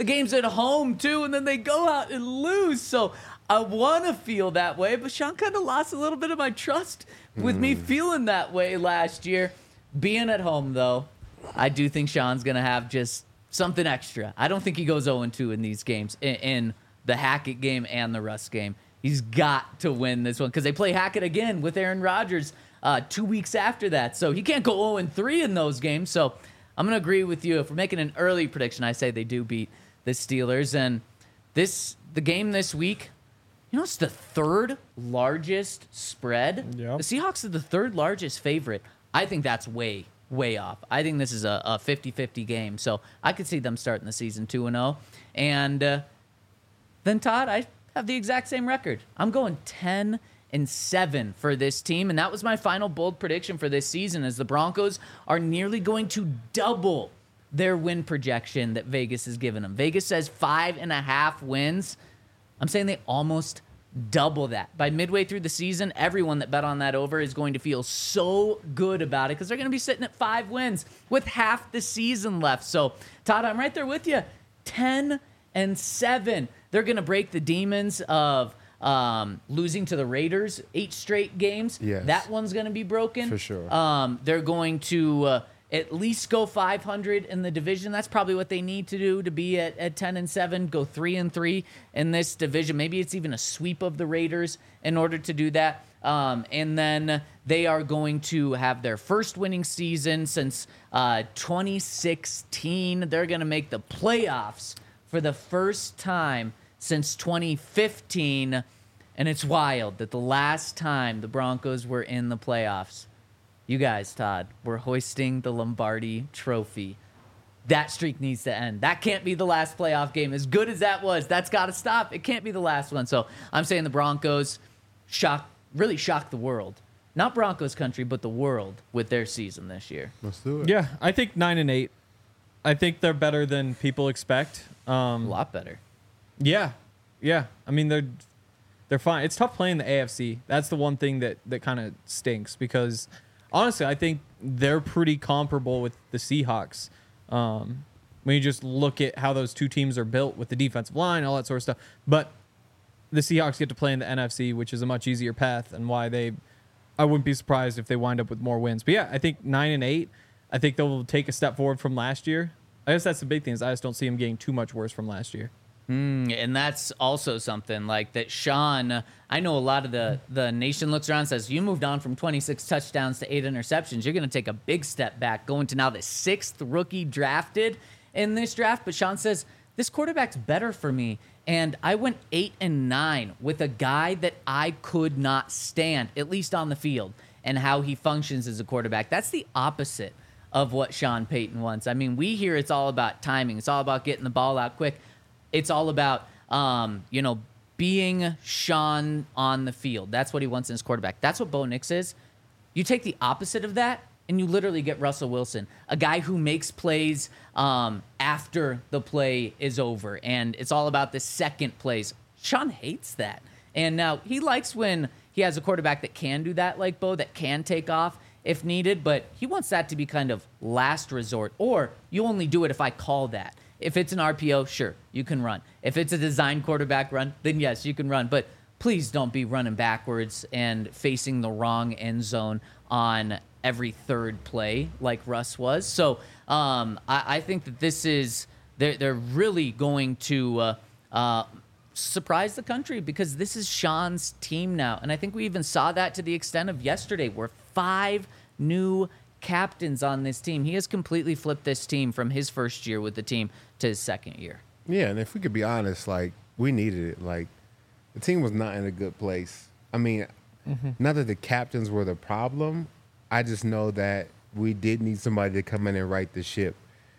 the game's at home too, and then they go out and lose. So I want to feel that way, but Sean kind of lost a little bit of my trust with me feeling that way last year. Being at home, though, I do think Sean's going to have just something extra. I don't think he goes oh and two in these games, in, in the Hackett game and the Russ game. He's got to win this one because they play Hackett again with Aaron Rodgers uh, two weeks after that. So he can't go oh and three in those games. So I'm going to agree with you. If we're making an early prediction, I say they do beat the Steelers. And this the game this week, you know, it's the third largest spread. Yep. The Seahawks are the third largest favorite. I think that's way, way off. I think this is a, a fifty-fifty game. So I could see them starting the season two and oh. And uh, then, Todd, I have the exact same record. I'm going ten and seven for this team. And that was my final bold prediction for this season, as the Broncos are nearly going to double their win projection that Vegas has given them. Vegas says five and a half wins. I'm saying they almost double that. By midway through the season, everyone that bet on that over is going to feel so good about it because they're going to be sitting at five wins with half the season left. So, Todd, I'm right there with you. ten and seven. They're going to break the demons of um, losing to the Raiders eight straight games. Yes. That one's going to be broken. For sure. Um, they're going to uh, at least go five hundred in the division. That's probably what they need to do to be at, at ten and seven, go three and three in this division. Maybe it's even a sweep of the Raiders in order to do that. Um, and then they are going to have their first winning season since uh, twenty sixteen. They're going to make the playoffs for the first time since twenty fifteen. And it's wild that the last time the Broncos were in the playoffs, you guys, Todd, were hoisting the Lombardi trophy. That streak needs to end. That can't be the last playoff game. As good as that was, that's got to stop. It can't be the last one. So I'm saying the Broncos shock, really shock the world. Not Broncos country, but the world with their season this year. Let's do it. Yeah, I think nine and eight. I think they're better than people expect. Um, A lot better. Yeah, yeah. I mean, they're they're fine. It's tough playing the A F C. That's the one thing that that kind of stinks because honestly, I think they're pretty comparable with the Seahawks. Um, when you just look at how those two teams are built with the defensive line, all that sort of stuff. But the Seahawks get to play in the N F C, which is a much easier path, and why they. I wouldn't be surprised if they wind up with more wins. But yeah, I think nine and eight. I think they'll take a step forward from last year. I guess that's the big thing is I just don't see them getting too much worse from last year. Mm, and that's also something like that Sean, I know a lot of the, the nation looks around and says, you moved on from twenty-six touchdowns to eight interceptions. You're going to take a big step back going to now the sixth rookie drafted in this draft. But Sean says, this quarterback's better for me. And I went eight and nine with a guy that I could not stand, at least on the field, and how he functions as a quarterback. That's the opposite of what Sean Payton wants. I mean, we hear it's all about timing. It's all about getting the ball out quick. It's all about, um, you know, being Sean on the field. That's what he wants in his quarterback. That's what Bo Nix is. You take the opposite of that, and you literally get Russell Wilson, a guy who makes plays um, after the play is over, and it's all about the second plays. Sean hates that. And now he likes when he has a quarterback that can do that like Bo, that can take off if needed, but he wants that to be kind of last resort, or you only do it if I call that. If it's an R P O, sure, you can run. If it's a design quarterback run, then yes, you can run. But please don't be running backwards and facing the wrong end zone on every third play like Russ was. So um, I, I think that this is, they're, they're really going to uh, uh, surprise the country because this is Sean's team now. And I think we even saw that to the extent of yesterday where five new captains on this team. He has completely flipped this team from his first year with the team to his second year. Yeah, and if we could be honest, like, we needed it. Like, the team was not in a good place. I mean, mm-hmm. not that the captains were the problem. I just know that we did need somebody to come in and right the ship.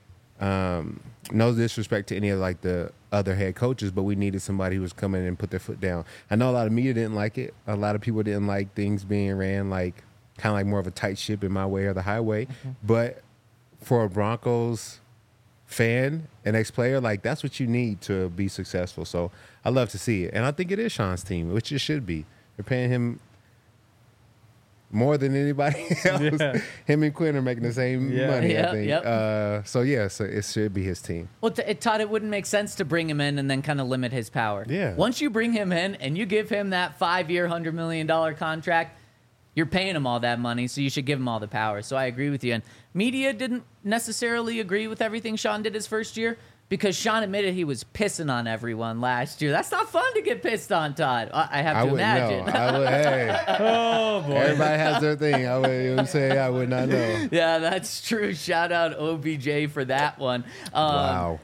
Um, no disrespect to any of, like, the other head coaches, but we needed somebody who was coming in and put their foot down. I know a lot of media didn't like it. A lot of people didn't like things being ran, like, kind of like more of a tight ship in my way or the highway. Mm-hmm. But for a Broncos fan, an ex-player, like, that's what you need to be successful. So I love to see it. And I think it is Sean's team, which it should be. They're paying him more than anybody else. Yeah. Him and Quinn are making the same Yeah. money, Yep, I think. yep. Uh, so yeah, so it should be his team. Well, t- it taught it wouldn't make sense to bring him in and then kind of limit his power. Yeah. Once you bring him in and you give him that five-year, hundred million dollar contract, you're paying him all that money, so you should give him all the power. So I agree with you. And media didn't necessarily agree with everything Sean did his first year because Sean admitted he was pissing on everyone last year. That's not fun to get pissed on, Todd. I, I have I to would imagine. know. I would. Hey, Oh boy. everybody has their thing. I would, you know what I'm saying? I would not know. Yeah, that's true. Shout out O B J for that one. Um, Wow.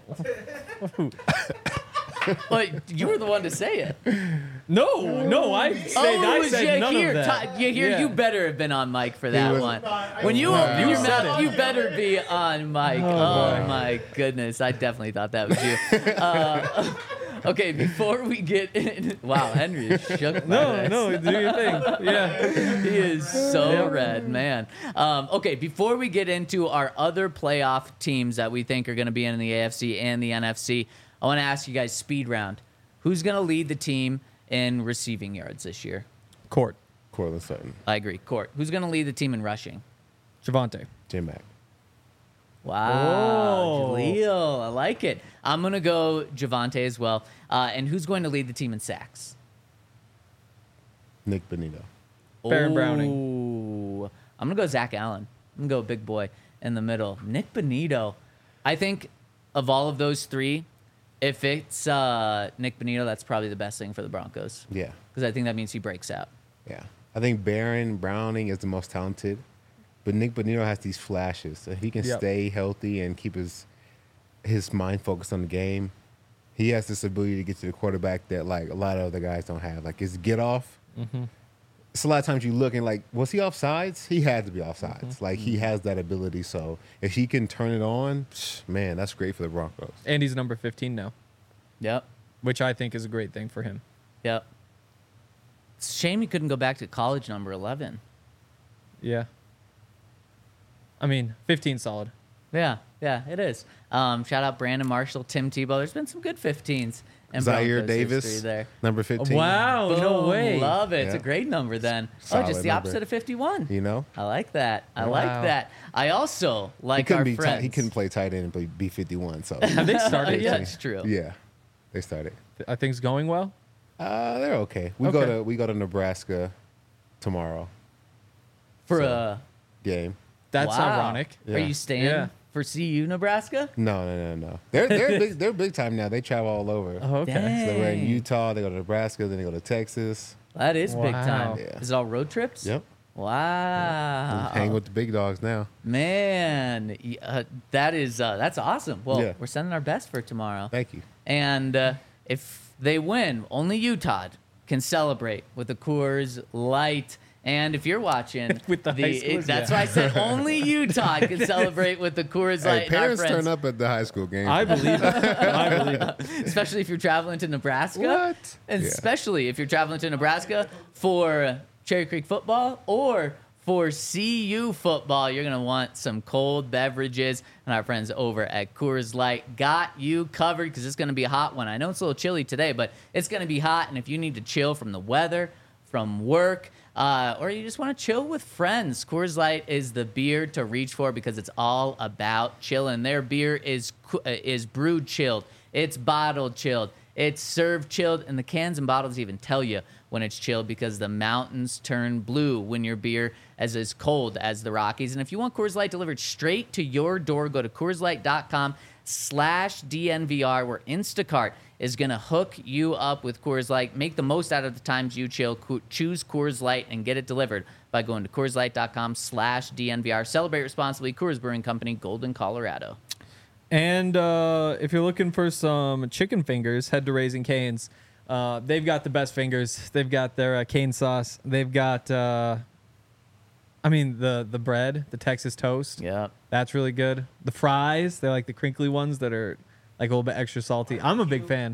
But you were the one to say it. No, no, I said Oh, I it was said yeah, none here. of that. Todd, you here? Yeah. You better have been on mic for that was- one. When you No, open you your said mouth, it. you better be on mic. Oh, my goodness, I definitely thought that was you. Uh, okay, before we get in, wow, Henry is shook. by No, this. no, do your thing. Yeah. He is so Yeah. red, man. Um, okay, before we get into our other playoff teams that we think are going to be in the A F C and the N F C, I want to ask you guys speed round. Who's going to lead the team in receiving yards this year? Court. Cortland Sutton, I agree. Court. Who's going to lead the team in rushing? Javante. Jim Mack. Wow, Oh. Jaleel, I like it. I'm going to go Javante as well. Uh, and who's going to lead the team in sacks? Nick Benito. Baron Browning. Ooh. I'm going to go Zach Allen. I'm going to go big boy in the middle. Nick Benito. I think of all of those three, if it's uh, Nick Benito, that's probably the best thing for the Broncos. Yeah. Because I think that means he breaks out. Yeah. I think Baron Browning is the most talented, but Nick Benito has these flashes. So if he can Yep. stay healthy and keep his his mind focused on the game, he has this ability to get to the quarterback that like a lot of other guys don't have. Like his get off. Mm-hmm. It's a lot of times you look and like, was he offsides? He had to be offsides. Mm-hmm. Like he has that ability. So if he can turn it on, psh, man, that's great for the Broncos. And he's number fifteen now, Yep. which I think is a great thing for him. Yep. It's a shame he couldn't go back to college number eleven. Yeah. I mean, fifteen solid. Yeah, yeah, it is. Um, shout out Brandon Marshall, Tim Tebow. There's been some good fifteens. And Zaire Broncos history Davis, there. number fifteen. Wow, no Boom, way. Love it. It's a Yeah. great number then. oh, Solid just the number. opposite of fifty-one. You know? I like that. I Wow. like that. I also He like couldn't our be friends. tight, he couldn't play tight end and play B fifty-one. So Have they started? yeah, yet? it's true. yeah, they started. Are things going well? Uh, they're okay. We go Okay. to we go to Nebraska tomorrow For So- a uh, game. That's wow. ironic. Are Yeah. you staying Yeah. for C U Nebraska? No, no, no, no. They're they're big, they're big time now. They travel all over. Oh, okay. Dang. So they're in Utah. They go to Nebraska. Then they go to Texas. That is big Wow. time. Yeah. Is it all road trips? Yep. Wow. Hang with the big dogs now. Man, y- uh, that is uh, that's awesome. Well, Yeah. we're sending our best for tomorrow. Thank you. And uh, if they win, only you, Todd, can celebrate with a Coors Light. And if you're watching, With the high schoolers, that's yeah. why I said only you, Todd, can celebrate with the Coors Light. Hey, and our parents friends. turn up at the high school games. I believe it. I believe it. Especially if you're traveling to Nebraska. What? And Yeah. especially if you're traveling to Nebraska for Cherry Creek football or for C U football, you're going to want some cold beverages. And our friends over at Coors Light got you covered because it's going to be a hot one. I know it's a little chilly today, but it's going to be hot. And if you need to chill from the weather, from work, uh, or you just want to chill with friends, Coors Light is the beer to reach for because it's all about chilling. Their beer is co- uh, is brewed chilled. It's bottled chilled. It's served chilled, and the cans and bottles even tell you when it's chilled because the mountains turn blue when your beer is as cold as the Rockies. And if you want Coors Light delivered straight to your door, go to CoorsLight.com slash DNVR, where Instacart is going to hook you up with Coors Light. Make the most out of the times you chill. Co- choose Coors Light and get it delivered by going to CoorsLight.com slash DNVR. Celebrate responsibly. Coors Brewing Company, Golden, Colorado. And uh, if you're looking for some chicken fingers, head to Raising Cane's. Uh, they've got the best fingers. They've got their uh, cane sauce. They've got, uh, I mean, the the bread, the Texas toast. Yep. That's really good. The fries, they're like the crinkly ones that are like a little bit extra salty. I'm a big fan.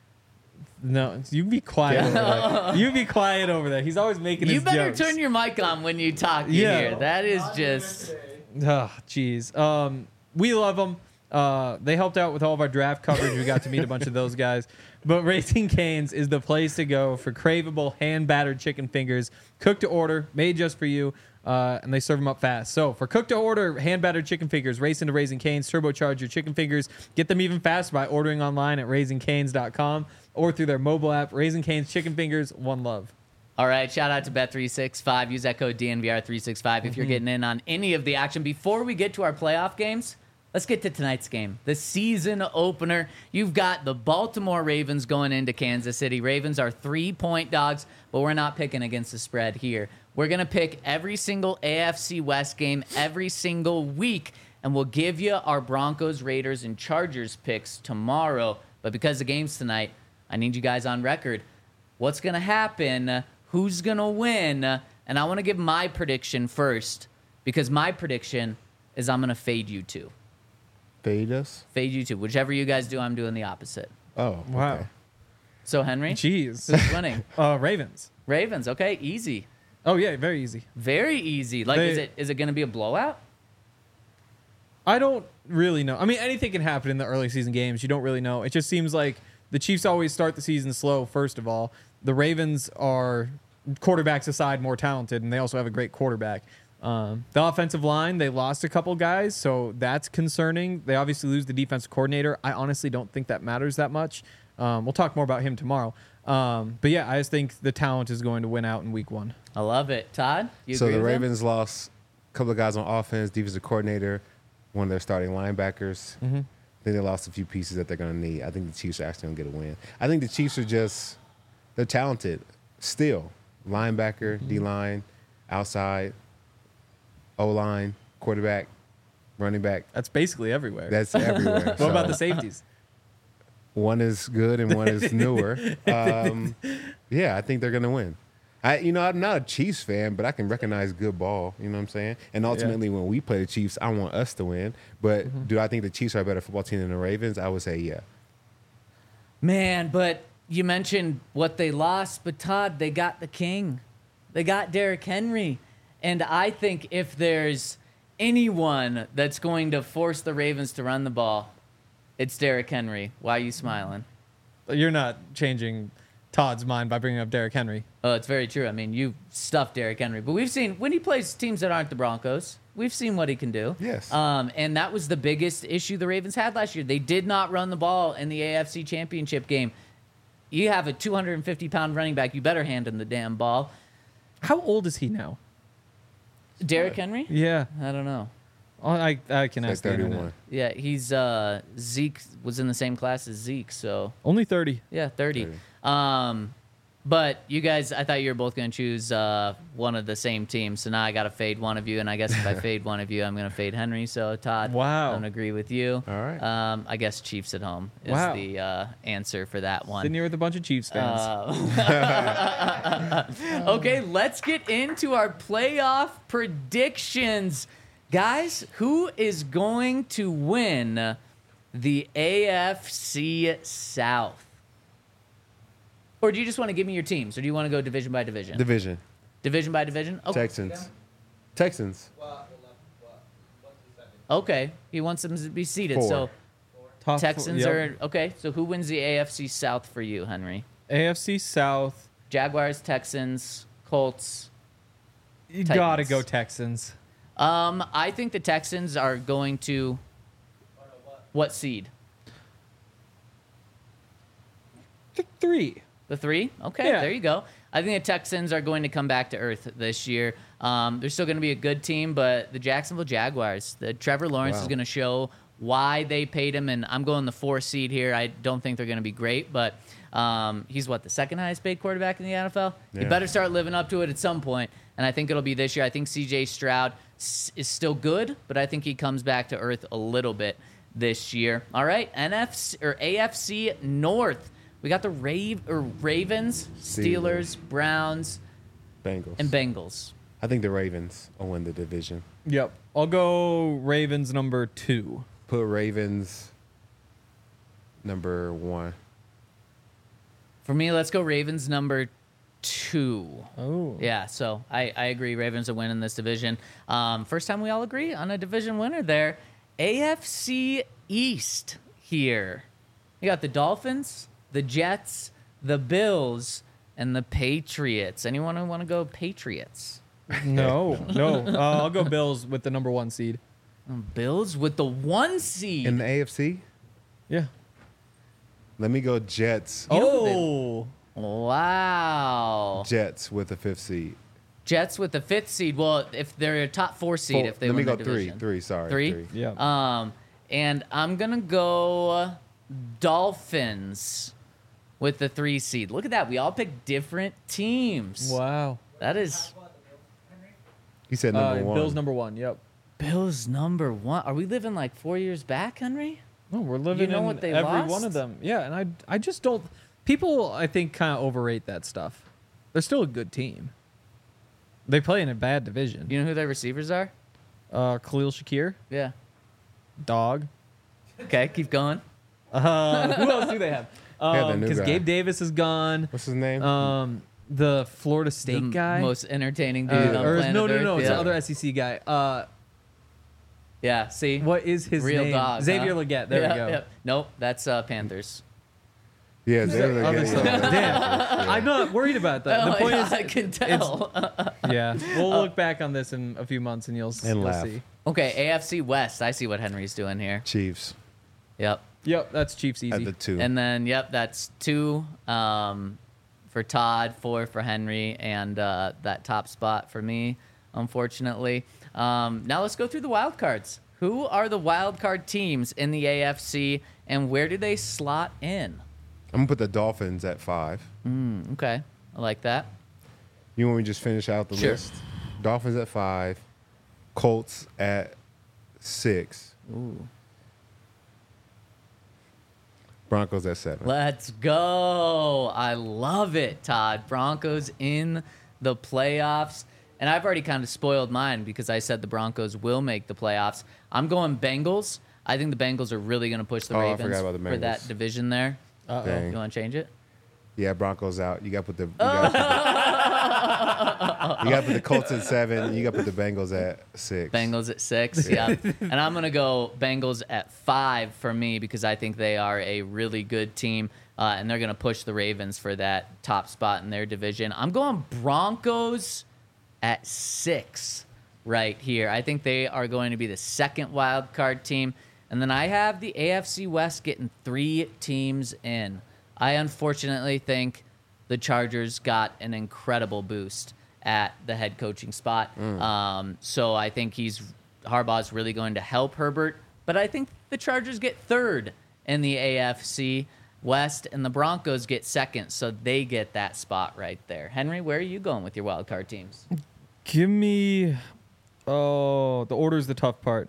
No, you be quiet over there. You be quiet over there. He's always making You his better jokes. turn your mic on when you talk you Yeah. hear. That is just... Oh, jeez. Um, we love them. Uh, they helped out with all of our draft coverage. We got to meet a bunch of those guys. But Raising Cane's is the place to go for craveable hand-battered chicken fingers, cooked to order, made just for you, uh, and they serve them up fast. So for cooked to order hand-battered chicken fingers, race into Raising Cane's, turbocharge your chicken fingers. Get them even faster by ordering online at raising canes dot com or through their mobile app. Raising Cane's Chicken Fingers, one love. All right, shout out to Bet three sixty-five. Use that code D N V R three sixty-five if you're getting in on any of the action. Before we get to our playoff games, let's get to tonight's game, the season opener. You've got the Baltimore Ravens going into Kansas City. Ravens are three-point dogs, but we're not picking against the spread here. We're going to pick every single A F C West game every single week, and we'll give you our Broncos, Raiders, and Chargers picks tomorrow. But because the game's tonight, I need you guys on record. What's going to happen? Who's going to win? And I want to give my prediction first, because my prediction is I'm going to fade you two. Fade us? Fade you two. Whichever you guys do, I'm doing the opposite. Oh, Wow. okay. So, Henry, Jeez. who's winning? Uh, Ravens. Ravens. Okay, easy. Oh, yeah, very easy. Very easy. Like, They- is it is it going to be a blowout? I don't really know. I mean, anything can happen in the early season games. You don't really know. It just seems like the Chiefs always start the season slow, first of all. The Ravens are, quarterbacks aside, more talented, and they also have a great quarterback. Um, the offensive line, they lost a couple guys, so that's concerning. They obviously lose the defensive coordinator. I honestly don't think that matters that much. Um, we'll talk more about him tomorrow. Um, but yeah, I just think the talent is going to win out in week one. I love it. Todd, you So agree the with him? Ravens lost a couple of guys on offense, defensive coordinator, one of their starting linebackers. Mm-hmm. I think they lost a few pieces that they're going to need. I think the Chiefs are actually going to get a win. I think the Chiefs are just, they're talented still. Linebacker, Mm-hmm. D-line, outside, O-line, quarterback, running back. That's basically everywhere. That's everywhere. what about So the safeties? One is good and one is newer. Um, yeah, I think they're going to win. I, you know, I'm not a Chiefs fan, but I can recognize good ball. You know what I'm saying? And ultimately, when we play the Chiefs, I want us to win. But Mm-hmm. do I think the Chiefs are a better football team than the Ravens? I would say yeah. Man, but you mentioned what they lost, but Todd, they got the king. They got Derrick Henry. And I think if there's anyone that's going to force the Ravens to run the ball, it's Derrick Henry. Why are you smiling? You're not changing Todd's mind by bringing up Derrick Henry. Oh, it's very true. I mean, you stuffed Derrick Henry, but we've seen when he plays teams that aren't the Broncos, we've seen what he can do. Yes. Um, and that was the biggest issue the Ravens had last year. They did not run the ball in the A F C Championship game. You have a two hundred fifty pound running back. You better hand him the damn ball. How old is he now? Derrick Henry? Yeah, I don't know. Oh, I I can Like ask the internet. thirty-one. Yeah, he's uh, Zeke was in the same class as Zeke, so Only thirty. yeah, thirty. thirty. Um, but you guys, I thought you were both going to choose uh, one of the same teams. So now I got to fade one of you, and I guess if I fade one of you, I'm going to fade Henry. So Todd, Wow. I'm going to agree with you. All right. Um, I guess Chiefs at home is Wow. the uh, answer for that one. Sitting here with a bunch of Chiefs fans. Uh, okay, let's get into our playoff predictions. Guys, who is going to win the A F C South? Or do you just want to give me your teams, or do you want to go division by division? Division. division by division? Okay. Texans. Texans. Okay, he wants them to be seated. Four. So Top four- Texans yep. are okay. So who wins the A F C South for you, Henry? A F C South. Jaguars, Texans, Colts. You Titans. gotta go Texans. Um, I think the Texans are going to. What seed? Th- Three. The three? Okay, Yeah. there you go. I think the Texans are going to come back to earth this year. Um, they're still going to be a good team, but the Jacksonville Jaguars, the Trevor Lawrence Wow. is going to show why they paid him, and I'm going the four seed here. I don't think they're going to be great, but um, he's what, the second highest paid quarterback in the N F L? You Yeah. better start living up to it at some point, and I think it'll be this year. I think C J Stroud s- is still good, but I think he comes back to earth a little bit this year. All right, N F C or A F C North. We got the Rave or Ravens, Steelers, Steelers. Browns, Bengals. and Bengals. I think the Ravens will win the division. Yep. I'll go Ravens number two. Put Ravens number one. For me, let's go Ravens number two. Oh. Yeah, so I, I agree. Ravens are winning this division. Um, first time we all agree on a division winner there. A F C East here. You got the Dolphins, the Jets, the Bills, and the Patriots. Anyone want to go Patriots? No, no. Uh, I'll go Bills with the number one seed. Bills with the one seed. In the A F C, Yeah. let me go Jets. You know Oh. Wow. Jets with the fifth seed. Jets with the fifth seed. Well, if they're a top four seed, Four- if they let me win go the three. division. Three. Sorry. Three? Yeah. Um, and I'm gonna go Dolphins with the three seed. Look at that. We all picked different teams. Wow. That is He said Uh, number one. Bills number one. Yep. Bills number one. Are we living like four years back, Henry? No, we're living know in what they every lost? one of them. Yeah, and I I just don't. People, I think, kind of overrate that stuff. They're still a good team. They play in a bad division. You know who their receivers are? Uh, Khalil Shakir, Yeah. dog. Okay, keep going. Uh, who else do they have? Yeah, the new Because guy. Gabe Davis is gone. What's his name? Um, the Florida State the guy. most entertaining Uh, dude on or is- planet no, no, Earth. no, it's yeah. the other S E C guy. Uh, Yeah, see? what is his Real name? dog. Xavier huh? Leggett. There Yeah, we go. yeah. Nope, that's uh, Panthers. yeah, they were Other getting- stuff. Damn. I'm not worried about that. Oh, The point yeah, is, I can tell. yeah, we'll look back on this in a few months and you'll, s- And you'll laugh. see. Okay, A F C West. I see what Henry's doing here. Chiefs Yep. Yep, that's Chiefs easy. at the two. And then, yep, that's two um, for Todd, four for Henry, and uh, that top spot for me, unfortunately. Um, now let's go through the wild cards. Who are the wild card teams in the A F C, and where do they slot in? I'm gonna put the Dolphins at five. Mm, okay, I like that. You want me to just finish out the Sure. list? Dolphins at five, Colts at six, Ooh. Broncos at seven. Let's go. I love it, Todd. Broncos in the playoffs. And I've already kind of spoiled mine because I said the Broncos will make the playoffs. I'm going Bengals. I think the Bengals are really going to push the Oh, I Ravens forgot about the for that Bengals. division there. Uh-oh. Dang. You want to change it? Yeah, Broncos out. You got to put the you got to put, the- you got to put the Colts at seven. You got to put the Bengals at six. Bengals at six, yeah. And I'm going to go Bengals at five for me because I think they are a really good team, uh, and they're going to push the Ravens for that top spot in their division. I'm going Broncos at six right here. I think they are going to be the second wild card team. And then I have the A F C West getting three teams in. I unfortunately think the Chargers got an incredible boost at the head coaching spot. Um, so I think he's Harbaugh's really going to help Herbert. But I think the Chargers get third in the A F C West, and the Broncos get second, so they get that spot right there. Henry, where are you going with your wild card teams? Give me. Oh, the order's the tough part.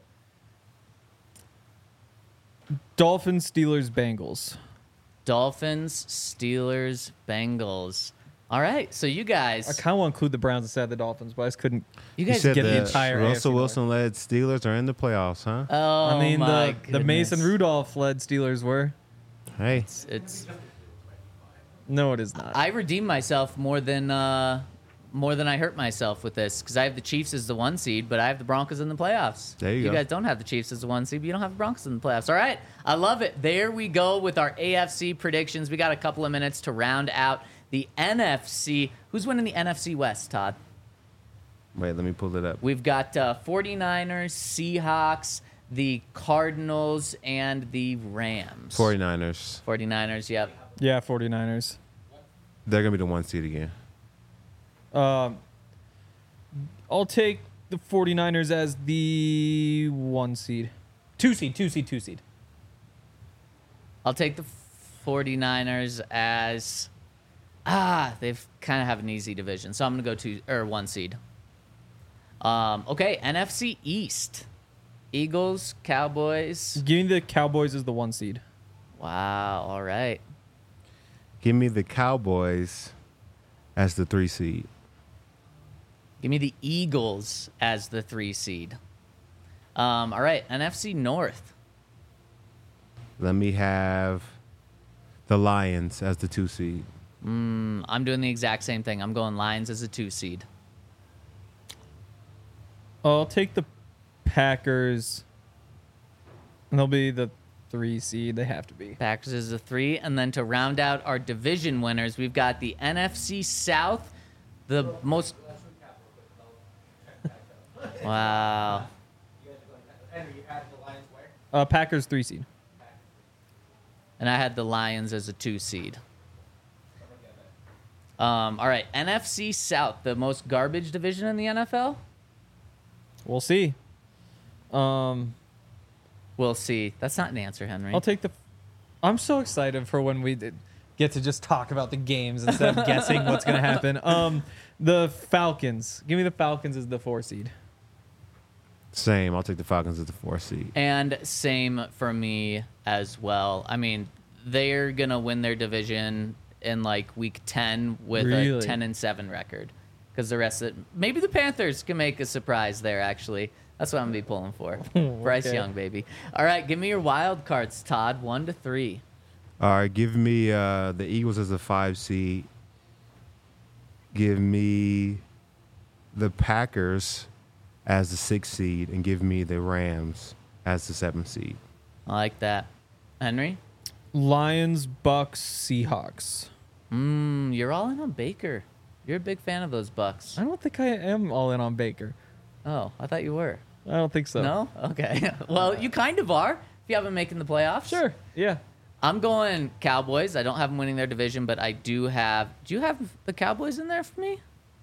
Dolphins, Steelers, Bengals. Dolphins, Steelers, Bengals. All right, so you I guys, kind of want to include the Browns instead of the Dolphins, but I just couldn't. you You guys said get the the entire A F C Russell North. Wilson-led Steelers are in the playoffs, huh? Oh, I mean, my the, the Mason goodness. Rudolph-led Steelers were. Hey, It's, it's No, it is not. I redeemed myself more than uh, more than I hurt myself with this because I have the Chiefs as the one seed, but I have the Broncos in the playoffs. There you You go. guys don't have the Chiefs as the one seed, but you don't have the Broncos in the playoffs. All right, I love it. There we go with our A F C predictions. We got a couple of minutes to round out the N F C. Who's winning the N F C West, Todd? wait, let me pull it up. We've got uh, 49ers, Seahawks, the Cardinals, and the Rams. 49ers. 49ers, yep. yeah, 49ers. They're going to be the one seed again. Um, I'll take the 49ers as the one seed. Two seed, two seed, two seed. I'll take the 49ers as ah, they've kind of have an easy division, so I'm gonna go two or one seed. Um, okay, N F C East, Eagles, Cowboys. Give me the Cowboys as the one seed. Wow, all right. Give me the Cowboys as the three seed. Give me the Eagles as the three seed. Um, all right, N F C North. Let me have the Lions as the two seed. Mm, I'm doing the exact same thing. I'm going Lions as a two seed. I'll take the Packers, and they'll be the three seed. They have to be. Packers is a three. And then to round out our division winners, we've got the N F C South, the most. Wow. Uh, Packers three seed. And I had the Lions as a two seed. Um, all right, N F C South, the most garbage division in the N F L? We'll see. Um, We'll see. That's not an answer, Henry. I'll take the. I'm so excited for when we did get to just talk about the games instead of guessing what's going to happen. Um, the Falcons. Give me the Falcons as the four seed. Same. I'll take the Falcons as the four seed. And same for me as well. I mean, they're going to win their division in like week ten with Really? a ten and seven record. Because the rest of it, maybe the Panthers can make a surprise there, actually. That's what I'm going to be pulling for. Bryce Okay. Young, baby. All right, give me your wild cards, Todd. One to three. All right, give me uh, the Eagles as a five seed. Give me the Packers as the six seed, and give me the Rams as the seven seed. I like that. Henry? Lions, Bucks, Seahawks. Mmm, you're all in on Baker. You're a big fan of those Bucks. I don't think I am all in on Baker. Oh, I thought you were. I don't think so. No? Okay. Well, you kind of are if you haven't making the playoffs. Sure. Yeah. I'm going Cowboys. I don't have them winning their division, but I do have. Do you have the Cowboys in there for me?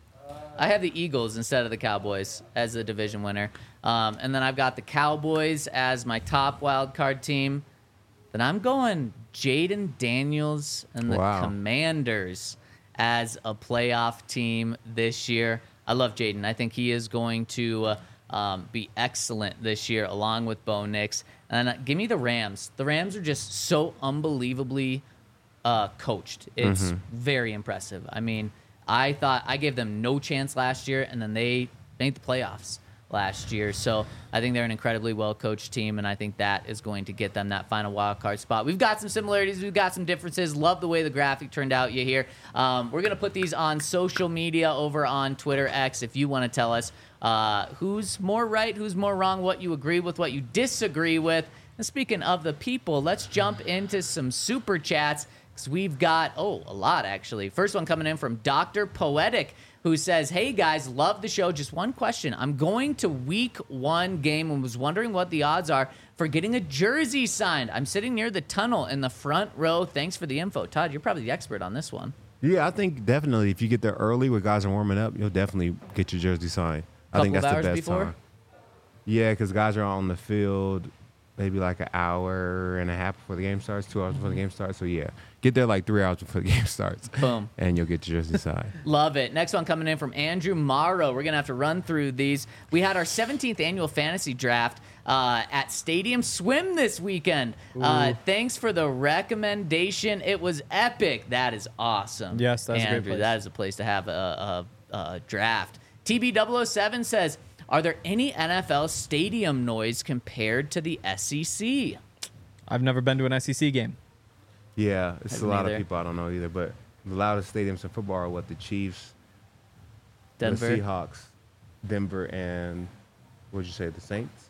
I have the Eagles instead of the Cowboys as the division winner. Um, and then I've got the Cowboys as my top wild card team. Then I'm going Jaden Daniels and the Wow. Commanders as a playoff team this year. I love Jaden. I think he is going to uh, um, be excellent this year along with Bo Nix. And uh, give me the Rams. The Rams are just so unbelievably uh, coached. It's very impressive. I mean, I thought I gave them no chance last year, and then they made the playoffs last year. So I think they're an incredibly well-coached team, and I think that is going to get them that final wild card spot. We've got some similarities. We've got some differences. Love the way the graphic turned out you hear. Um, we're going to put these on social media over on Twitter X if you want to tell us uh, who's more right, who's more wrong, what you agree with, what you disagree with. And speaking of the people, let's jump into some super chats because we've got, oh, a lot actually. First one coming in from Doctor Poetic, who says, hey guys, love the show. Just one question. I'm going to week one game and was wondering what the odds are for getting a jersey signed. I'm sitting near the tunnel in the front row. Thanks for the info. Todd, you're probably the expert on this one. Yeah, I think definitely if you get there early where guys are warming up, you'll definitely get your jersey signed. I think Couple that's of the hours best before? time. Yeah, because guys are on the field maybe like an hour and a half before the game starts, two hours before the game starts. So, yeah, get there like three hours before the game starts. Boom. And you'll get your jersey signed. Love it. Next one coming in from Andrew Morrow. We're going to have to run through these. We had our seventeenth annual fantasy draft uh, at Stadium Swim this weekend. Uh, thanks for the recommendation. It was epic. That is awesome. Yes, that's a great Andrew, place. that is a place to have a, a, a draft. T B double oh seven says, are there any N F L stadium noise compared to the S E C? I've never been to an S E C game. Yeah, it's Haven't a lot either. of people I don't know either. But the loudest stadiums in football are what? The Chiefs, Denver? the Seahawks, Denver, and what'd you say, the Saints?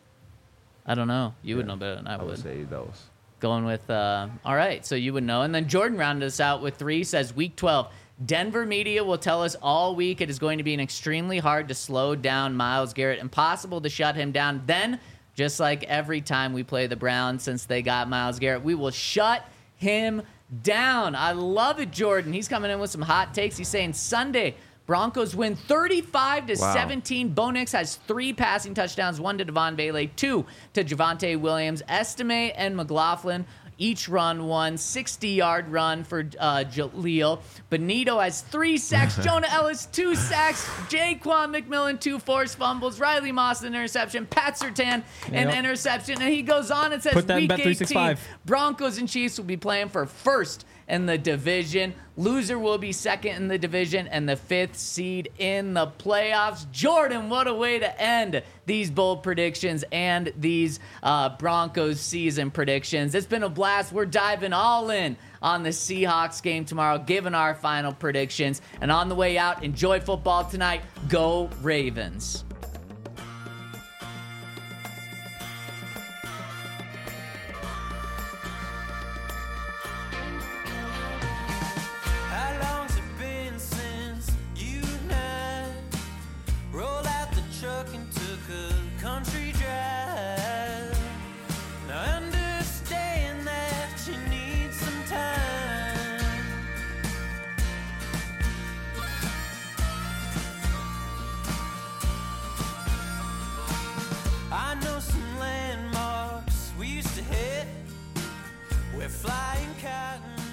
I don't know. You would Yeah, know better than I, I would would. say those. Going with, uh, all right, so you would know. And then Jordan rounded us out with three, says week twelve. Denver media will tell us all week it is going to be an extremely hard to slow down Myles Garrett, impossible to shut him down. Then, just like every time we play the Browns since they got Myles Garrett, we will shut him down. I love it, Jordan. He's coming in with some hot takes. He's saying Sunday, Broncos win thirty-five to seventeen. Bo Nix has three passing touchdowns, one to Devon Bailey, two to Javonte Williams. Estime and McLaughlin each run one sixty-yard run for uh, Jaleel. Benito has three sacks. Jonah Ellis, two sacks. Jaquan McMillan, two forced fumbles. Riley Moss, an interception. Pat Surtain, an Yep. interception. And he goes on and says, Put that in week Bet three eighteen, sixty-five. Broncos and Chiefs will be playing for first in the division. Loser will be second in the division and the fifth seed in the playoffs. Jordan, what a way to end these bold predictions and these uh, Broncos season predictions. It's been a blast. We're diving all in on the Seahawks game tomorrow, giving our final predictions. And on the way out, enjoy football tonight. Go Ravens. I know some landmarks we used to hit where flying cotton